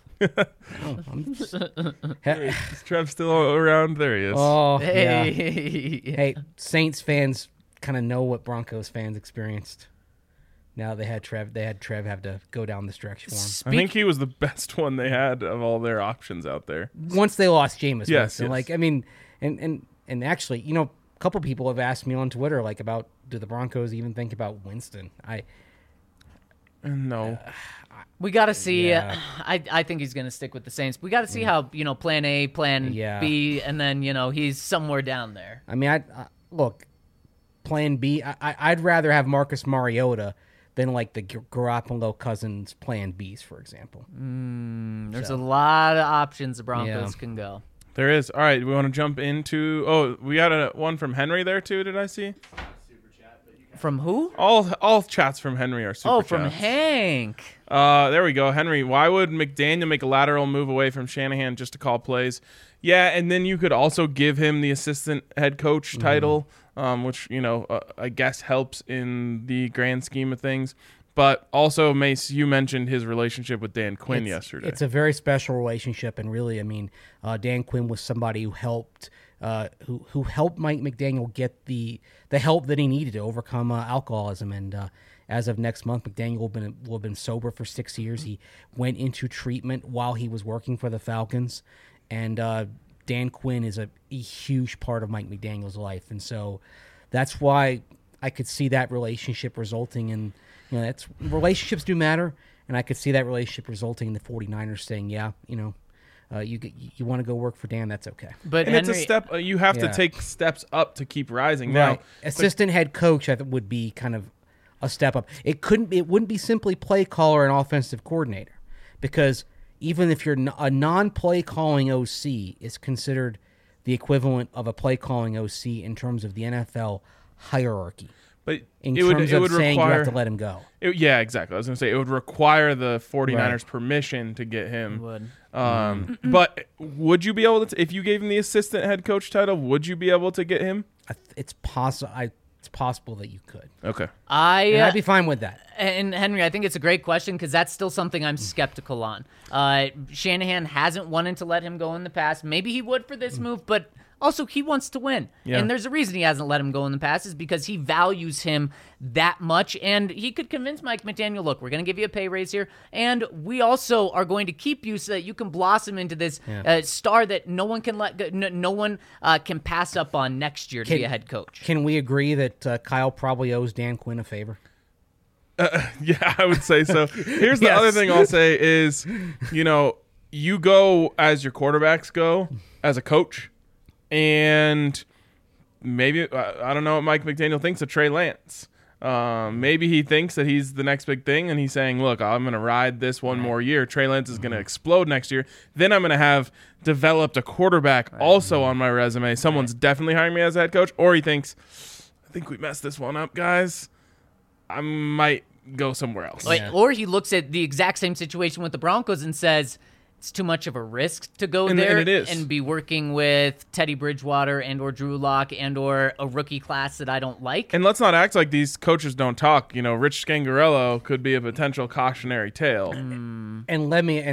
Is Trev still around? There he is. Oh, yeah. Hey. Hey, Saints fans kind of know what Broncos fans experienced. Now they had Trev have to go down this stretch for him. I think he was the best one they had of all their options out there. Once they lost Jameis. Yes. Like, I mean, and actually, a couple people have asked me on Twitter, like, about, do the Broncos even think about Winston? No. We got to see. Yeah. I think he's going to stick with the Saints. We got to see how, plan A, plan B, and then, he's somewhere down there. I mean, look, plan B. I'd rather have Marcus Mariota than like the Garoppolo Cousins plan Bs, for example. There's a lot of options the Broncos can go. There is. All right, we want to jump into. Oh, we got one from Henry there too. Did I see? From who? All chats from Henry are super. Oh, from chats. Hank. There we go, Henry. Why would McDaniel make a lateral move away from Shanahan just to call plays? Yeah, and then you could also give him the assistant head coach title, which I guess helps in the grand scheme of things. But also, Mace, you mentioned his relationship with Dan Quinn yesterday. It's a very special relationship, and really, I mean, Dan Quinn was somebody who helped. Who helped Mike McDaniel get the help that he needed to overcome alcoholism. And as of next month, McDaniel will have been sober for 6 years. He went into treatment while he was working for the Falcons. And Dan Quinn is a huge part of Mike McDaniel's life. And so that's why I could see that relationship resulting in, relationships do matter. And I could see that relationship resulting in the 49ers saying, you want to go work for Dan, that's okay. But and Henry, it's a step. You have to take steps up to keep rising. Right. Now, Assistant head coach, I think, would be kind of a step up. It wouldn't be simply play caller and offensive coordinator, because even if you're a non-play calling OC is considered the equivalent of a play calling OC in terms of the NFL hierarchy. But in it terms would of saying require, you have to let him go. Yeah, exactly. I was going to say it would require the 49ers permission to get him. would. But would you be able to, if you gave him the assistant head coach title, would you be able to get him? It's possible. It's possible that you could. Okay. And I'd be fine with that. And Henry, I think it's a great question because that's still something I'm skeptical on. Shanahan hasn't wanted to let him go in the past. Maybe he would for this move, but also he wants to win. Yeah. And there's a reason he hasn't let him go in the past is because he values him that much. And he could convince Mike McDaniel, look, we're going to give you a pay raise here. And we also are going to keep you so that you can blossom into this star that no one can let go, no one can pass up on next year to be a head coach. Can we agree that Kyle probably owes Dan Quinn a favor? Yeah, I would say so. Here's the other thing I'll say is, you go as your quarterbacks go as a coach, and maybe, I don't know what Mike McDaniel thinks of Trey Lance. Maybe he thinks that he's the next big thing, and he's saying, look, I'm going to ride this one more year. Trey Lance is going to explode next year. Then I'm going to have developed a quarterback also on my resume. Someone's definitely hiring me as a head coach. Or he thinks, I think we messed this one up, guys. I might go somewhere else. Or he looks at the exact same situation with the Broncos and says, it's too much of a risk to go there and it is. And be working with Teddy Bridgewater and or Drew Lock and or a rookie class that I don't like. And let's not act like these coaches don't talk. Rich Scangarello could be a potential cautionary tale. And let me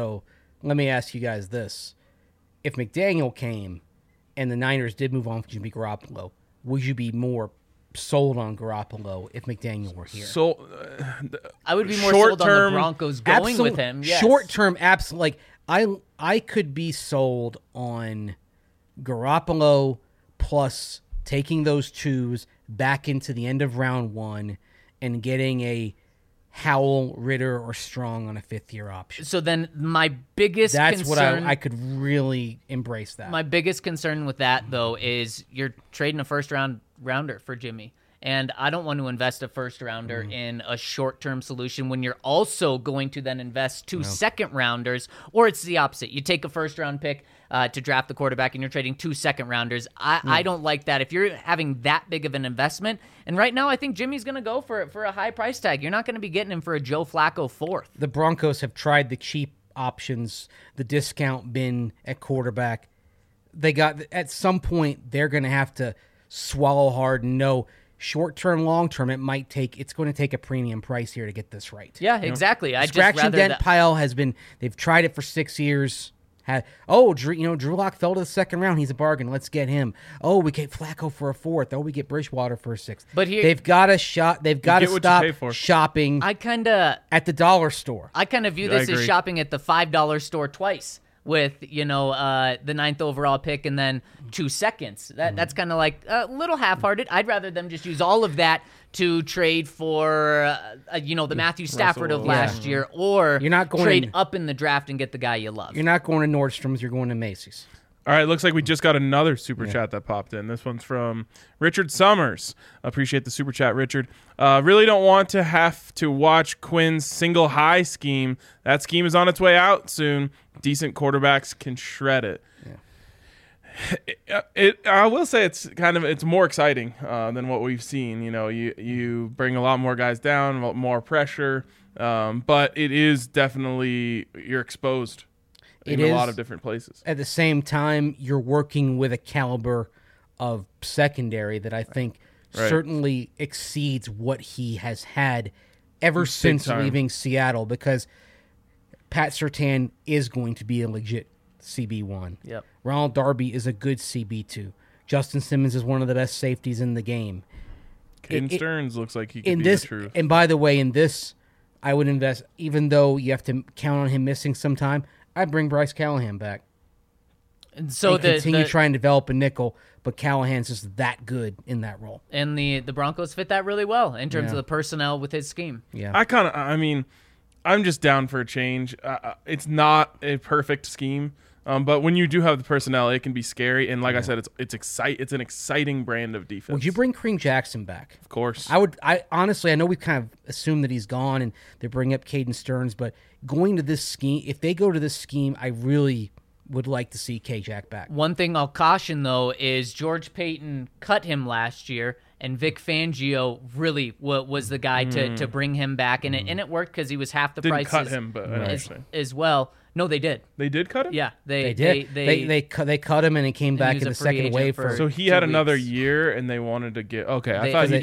ask you guys this. If McDaniel came and the Niners did move on from Jimmy Garoppolo, would you be more sold on Garoppolo if McDaniel were here? So I would be more sold on the Broncos going with him. Yes. Short term, absolutely. Like I could be sold on Garoppolo plus taking those twos back into the end of round one and getting a Howell, Ritter, or Strong on a fifth-year option. So then my biggest concern... That's what I could really embrace that. My biggest concern with that, though, is you're trading a first-rounder for Jimmy. And I don't want to invest a first-rounder in a short-term solution when you're also going to then invest two second-rounders, or it's the opposite. You take a first-round pick to draft the quarterback, and you're trading two second-rounders. I don't like that. If you're having that big of an investment, and right now I think Jimmy's going to go for a high price tag. You're not going to be getting him for a Joe Flacco fourth. The Broncos have tried the cheap options, the discount bin at quarterback. They got at some point they're going to have to swallow hard and know short-term, long-term, it's going to take a premium price here to get this right. Yeah, exactly. Scratch and dent pile has been, they've tried it for 6 years. Drew Lock fell to the second round. He's a bargain. Let's get him. Oh, we get Flacco for a fourth. Oh, we get Bridgewater for a sixth. But here, they've got to stop shopping at the dollar store. I kind of view this as shopping at the $5 store twice with, the ninth overall pick and then 2 seconds. That's kind of like a little half-hearted. I'd rather them just use all of that to trade for, the Matthew Stafford of last year, or you're not going trade up in the draft and get the guy you love. You're not going to Nordstrom's. You're going to Macy's. All right, looks like we just got another super chat that popped in. This one's from Richard Summers. Appreciate the super chat, Richard. Really don't want to have to watch Quinn's single high scheme. That scheme is on its way out soon. Decent quarterbacks can shred it. I will say it's more exciting than what we've seen. You know, you bring a lot more guys down, a lot more pressure, but it is definitely you're exposed in a lot of different places. At the same time, you're working with a caliber of secondary that I think certainly exceeds what he has had ever since leaving Seattle, because Pat Surtain is going to be a legit CB1. Yep. Ronald Darby is a good CB2. Justin Simmons is one of the best safeties in the game. Caden Stearns looks like he could be the truth. And by the way, in this, I would invest, even though you have to count on him missing some time, I'd bring Bryce Callahan back. And so continue trying to develop a nickel, but Callahan's just that good in that role. And the Broncos fit that really well in terms of the personnel with his scheme. Yeah. I'm just down for a change. It's not a perfect scheme, but when you do have the personnel, it can be scary. And like I said, it's an exciting brand of defense. Would you bring Kareem Jackson back? Of course. I honestly, I know we kind of assumed that he's gone and they bring up Caden Stearns, but going to this scheme, if they go to this scheme, I really would like to see K-Jack back. One thing I'll caution, though, is George Payton cut him last year, and Vic Fangio really was the guy to bring him back, and it worked because he was half the price. Didn't cut him, but as well. No, they did. They did cut him? Yeah, they did. They cut him, and he came back in the second wave. So he had another year, and they wanted to get. Okay,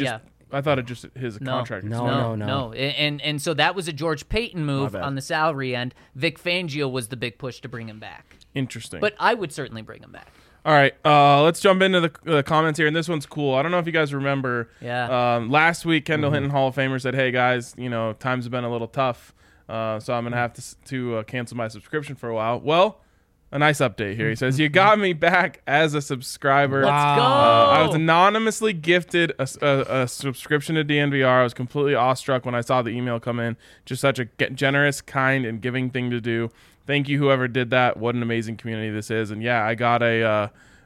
I thought it just his contract. No. And so that was a George Payton move on the salary end. Vic Fangio was the big push to bring him back. Interesting. But I would certainly bring him back. All right, let's jump into the comments here, and this one's cool. I don't know if you guys remember. Yeah. Last week, Kendall Hinton, Hall of Famer, said, "Hey guys, times have been a little tough, so I'm gonna have to cancel my subscription for a while." Well, a nice update here. He says, "You got me back as a subscriber. Let's go. I was anonymously gifted a subscription to DNVR. I was completely awestruck when I saw the email come in. Just such a generous, kind, and giving thing to do. Thank you, whoever did that. What an amazing community this is." And yeah, I got a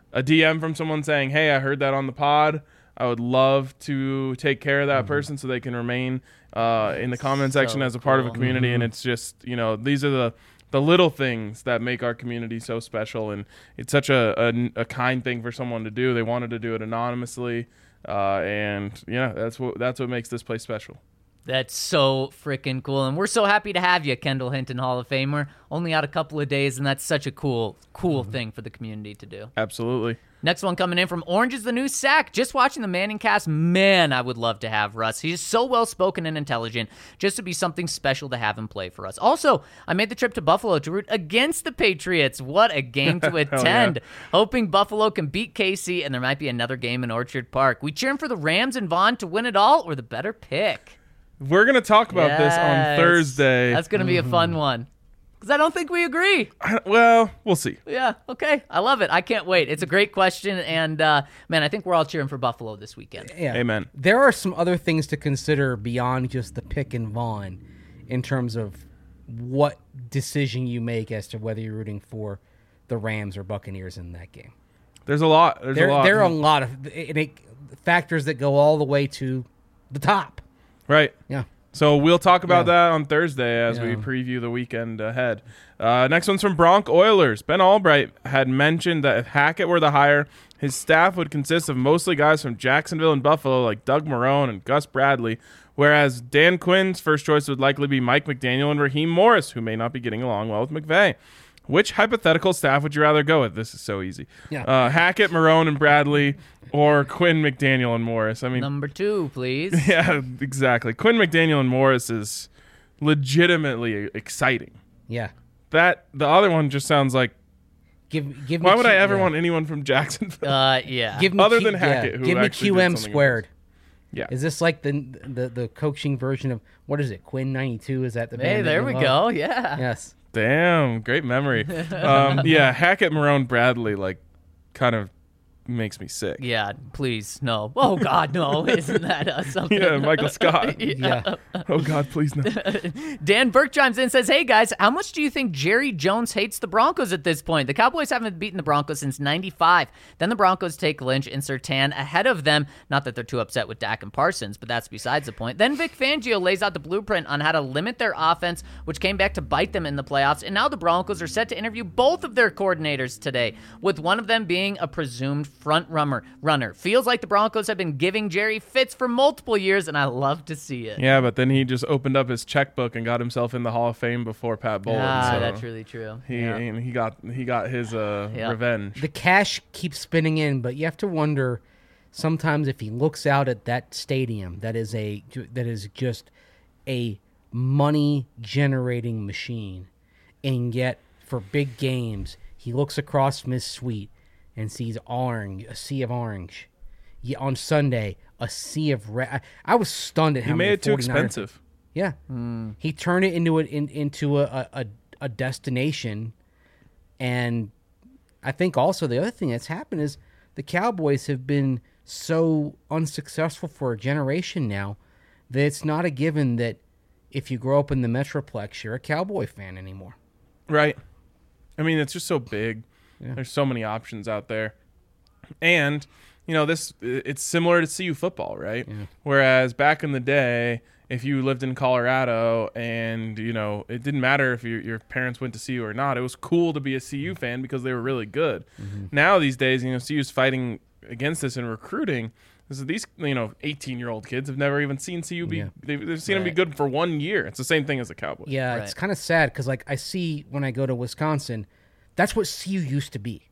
DM from someone saying, "Hey, I heard that on the pod. I would love to take care of that person so they can remain in the comment section as a part of a community." And it's just, these are the little things that make our community so special. And it's such a kind thing for someone to do. They wanted to do it anonymously. And yeah, that's what makes this place special. That's so freaking cool. And we're so happy to have you, Kendall Hinton, Hall of Famer. Only out a couple of days, and that's such a cool thing for the community to do. Absolutely. Next one coming in from Orange is the New Sack. Just watching the Manning cast, man, I would love to have Russ. He's so well-spoken and intelligent, just to be something special to have him play for us. Also, I made the trip to Buffalo to root against the Patriots. What a game to attend. Hoping Buffalo can beat KC, and there might be another game in Orchard Park. We cheering for the Rams and Vaughn to win it all, or the better pick? We're going to talk about this on Thursday. That's going to be a fun one. Because I don't think we agree. Well, we'll see. Yeah, okay. I love it. I can't wait. It's a great question, and, man, I think we're all cheering for Buffalo this weekend. Yeah. Amen. There are some other things to consider beyond just the pick and Vaughn in terms of what decision you make as to whether you're rooting for the Rams or Buccaneers in that game. There's a lot. There are a lot of factors that go all the way to the top. Right. Yeah. So we'll talk about that on Thursday as we preview the weekend ahead. Next one's from Bronc Oilers. Ben Albright had mentioned that if Hackett were the hire, his staff would consist of mostly guys from Jacksonville and Buffalo like Doug Marrone and Gus Bradley, whereas Dan Quinn's first choice would likely be Mike McDaniel and Raheem Morris, who may not be getting along well with McVay. Which hypothetical staff would you rather go with? This is so easy. Yeah. Hackett, Marrone, and Bradley, or Quinn, McDaniel, and Morris. I mean, number 2, please. Yeah, exactly. Quinn, McDaniel, and Morris is legitimately exciting. Yeah. The other one just sounds like. Give me. Why would I ever want anyone from Jacksonville? Yeah. Give me other than Hackett, who give me actually QM did something squared. Yeah. Is this like the coaching version of what is it? Quinn 92? Is that the band? Hey, there we go. Yeah. Yes. Damn, great memory. Yeah, Hackett, Marrone, Bradley, like, kind of makes me sick. Yeah, please, no. Oh, God, no. Isn't that something? Yeah, Michael Scott. Yeah. Oh God, please no. Dan Burke chimes in and says, hey, guys, how much do you think Jerry Jones hates the Broncos at this point? The Cowboys haven't beaten the Broncos since 95. Then the Broncos take Lynch and Surtain ahead of them. Not that they're too upset with Dak and Parsons, but that's besides the point. Then Vic Fangio lays out the blueprint on how to limit their offense, which came back to bite them in the playoffs. And now the Broncos are set to interview both of their coordinators today, with one of them being a presumed front runner. Feels like the Broncos have been giving Jerry fits for multiple years, and I love to see it. Yeah, but then he just opened up his checkbook and got himself in the Hall of Fame before Pat Bowlen. So That's really true. he got his revenge. The cash keeps spinning in, but you have to wonder sometimes if he looks out at that stadium that is just a money generating machine, and yet for big games he looks across from his suite and sees a sea of orange. Yeah, on Sunday, a sea of red. I was stunned at how He made many it too 49ers expensive. Yeah, he turned it into a destination, and I think also the other thing that's happened is the Cowboys have been so unsuccessful for a generation now that it's not a given that if you grow up in the Metroplex, you're a Cowboy fan anymore. Right. I mean, it's just so big. Yeah. There's so many options out there. And, it's similar to CU football, right? Yeah. Whereas back in the day, if you lived in Colorado and, it didn't matter if your parents went to CU or not, it was cool to be a CU fan because they were really good. Mm-hmm. Now these days, CU's fighting against this in recruiting. These 18-year-old kids have never even seen CU be. Yeah. They've seen them be good for 1 year. It's the same thing as the Cowboys. Yeah, Right. It's kind of sad because I see when I go to Wisconsin, that's what CU used to be.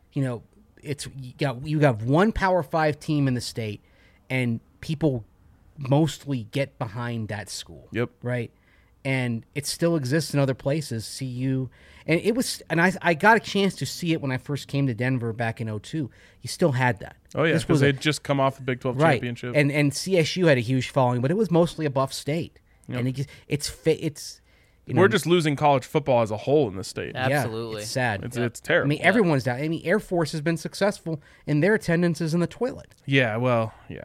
It's you got one Power 5 team in the state, and people mostly get behind that school. Yep. Right. And it still exists in other places. CU, and I got a chance to see it when I first came to Denver back in 2002. You still had that. Oh yeah, because they'd just come off the Big 12 right. championship. And CSU had a huge following, but it was mostly a Buff State. Yep. And it's We're just losing college football as a whole in the state. Absolutely. Yeah, it's sad. It's terrible. I mean, everyone's down. I mean, Air Force has been successful, and their attendance is in the toilet. Yeah, well, yeah.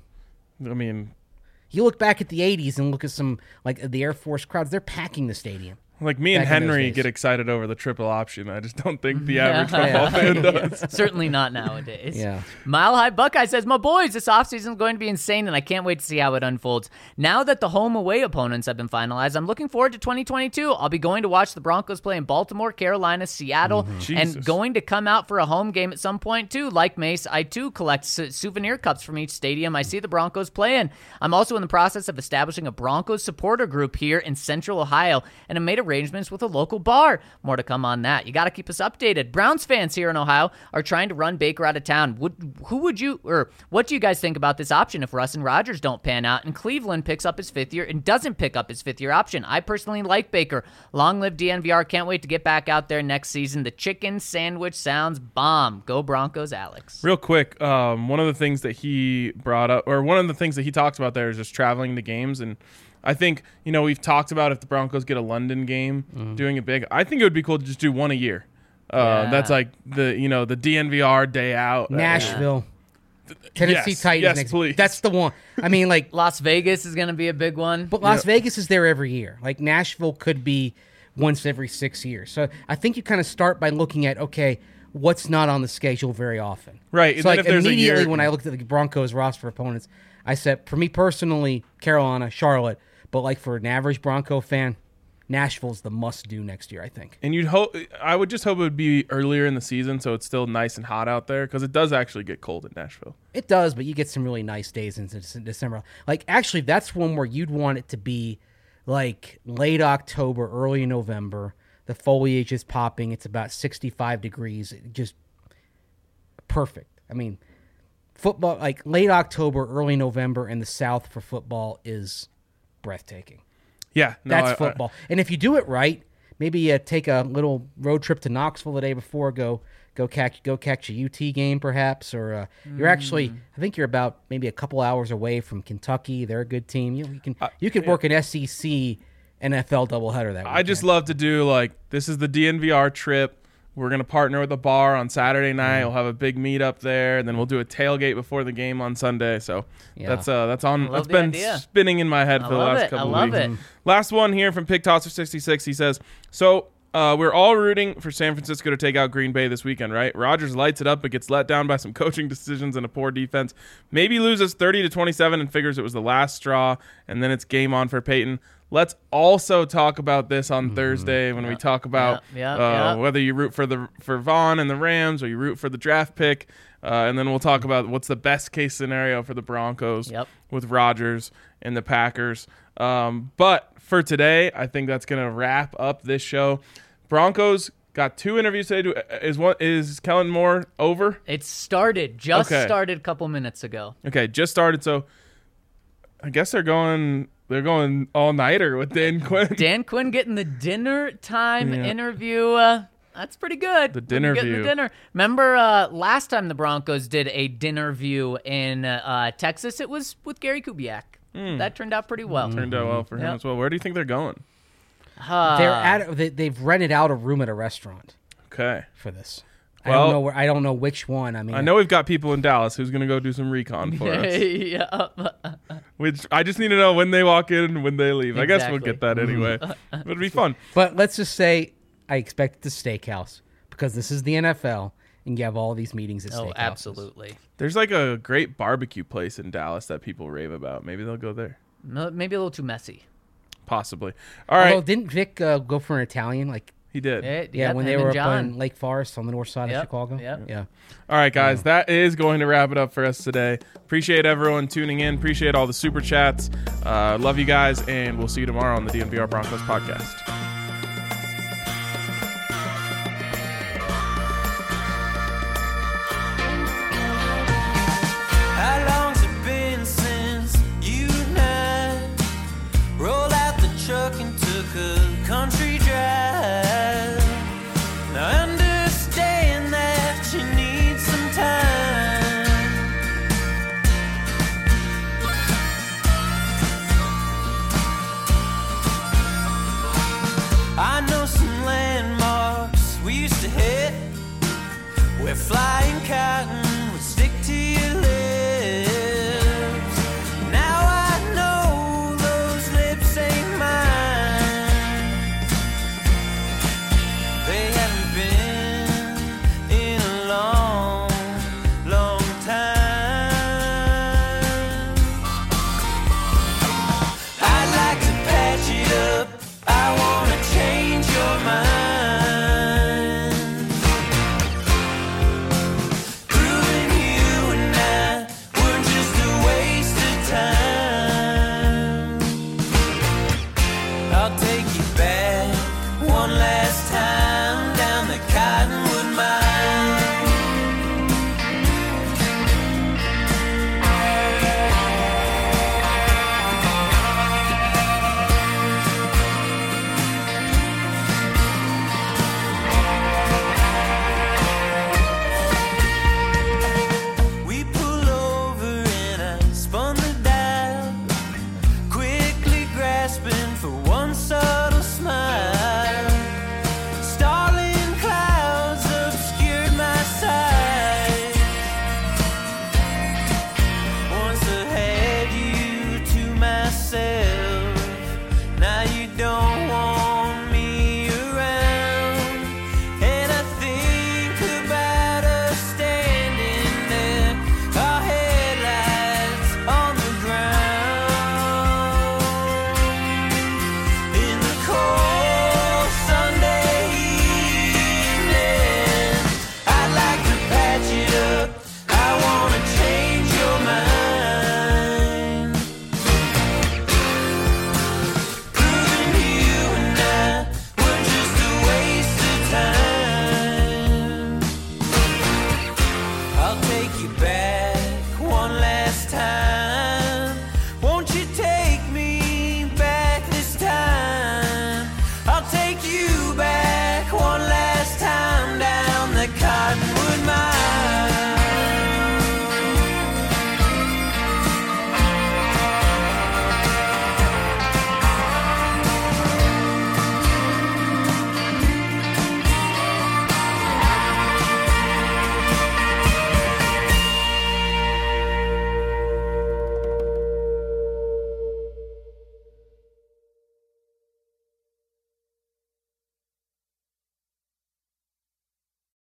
I mean, You look back at the 80s and look at some, like, the Air Force crowds, they're packing the stadium. like me and Back in those Henry days. get excited over the triple option. I just don't think the average football fan does. Certainly not nowadays. Yeah. Mile High Buckeye says, my boys, this offseason is going to be insane, and I can't wait to see how it unfolds. Now that the home-away opponents have been finalized, I'm looking forward to 2022. I'll be going to watch the Broncos play in Baltimore, Carolina, Seattle, and Jesus. going to come out for a home game at some point, too. Like Mace, I, too, collect souvenir cups from each stadium I see the Broncos play in. I'm also in the process of establishing a Broncos supporter group here in Central Ohio, and have made arrangements with a local bar. More to come on that. You got to keep us updated. Browns fans here in Ohio are trying to run Baker out of town. What do you guys think about this option if Russ and Rodgers don't pan out and Cleveland picks up his fifth year and doesn't pick up his fifth-year option? I personally like Baker. Long live DNVR. Can't wait to get back out there next season. The chicken sandwich sounds bomb. Go Broncos, Alex. Real quick, one of the things that he brought up, or one of the things that he talks about there is just traveling to games. And I think, we've talked about if the Broncos get a London game, doing it big. I think it would be cool to just do one a year. That's like the DNVR day out. Nashville. Tennessee Yes, Titans yes, next. please. That's the one. I mean, like, Las Vegas is going to be a big one. but Las Vegas is there every year. Like, Nashville could be once every 6 years. So I think you kind of start by looking at, okay, what's not on the schedule very often. Right, and So then like if there's a immediately year- when I looked at the Broncos roster opponents, I said, for me personally, Carolina, Charlotte, but like for an average Bronco fan, Nashville's the must-do next year, I think. And I would just hope it would be earlier in the season so it's still nice and hot out there, because it does actually get cold in Nashville. It does, but you get some really nice days in December. Like, actually, that's one where you'd want it to be like late October, early November. The foliage is popping. It's about 65 degrees. Just perfect. I mean, football, like late October, early November in the South for football is breathtaking. Yeah, no, That's football. And if you do it right, maybe take a little road trip to Knoxville the day before, go catch a UT game perhaps, or you're actually, I think you're about maybe a couple hours away from Kentucky. They're a good team. You can work an SEC NFL doubleheader that weekend. I just love to do, like, this is the DNVR trip. We're going to partner with a bar on Saturday night. We'll have a big meetup there, and then we'll do a tailgate before the game on Sunday. So that's on. That's been idea. spinning in my head for the last couple of weeks. I love it. Last one here from Pig Tosser 66. He says, so we're all rooting for San Francisco to take out Green Bay this weekend, right? Rodgers lights it up but gets let down by some coaching decisions and a poor defense. Maybe loses 30-27 and figures it was the last straw, and then it's game on for Peyton. Let's also talk about this on Thursday when we talk about whether you root for Vaughn and the Rams or you root for the draft pick. And then we'll talk about what's the best case scenario for the Broncos with Rodgers and the Packers. But for today, I think that's going to wrap up this show. Broncos got 2 interviews today. Is Kellen Moore over? It started. Started a couple minutes ago. Okay, just started. So I guess they're going all-nighter with Dan Quinn. Dan Quinn getting the dinner time interview. That's pretty good. The dinner view. The dinner. Remember last time the Broncos did a dinner view in Texas? It was with Gary Kubiak. That turned out pretty well. Turned out well for him as well. Where do you think they're going? They've rented out a room at a restaurant. Okay. For this. Well, I don't know which one. I know we've got people in Dallas who's going to go do some recon for us. Which I just need to know when they walk in and when they leave. Exactly. I guess we'll get that anyway. It'll be fun. But let's just say I expect the steakhouse because this is the NFL and you have all these meetings at steakhouses. Oh, absolutely. There's like a great barbecue place in Dallas that people rave about. Maybe they'll go there. Maybe a little too messy. Possibly. All right. Although, didn't Vic go for an Italian? He did. When they were up in Lake Forest on the north side of Chicago. Yeah. All right, guys, that is going to wrap it up for us today. Appreciate everyone tuning in. Appreciate all the super chats. Love you guys, and we'll see you tomorrow on the DNVR Broncos podcast. How long's it been since you and I rolled out the truck and took a country drive? Now understand that you need some time. I know some landmarks we used to hit where flying cotton would stick to your lips. Now I know those lips ain't mine. They haven't been in a long, long time. I'd like to patch it up. I wanna change your mind. Proving you and I were just a waste of time. I'll take you back one last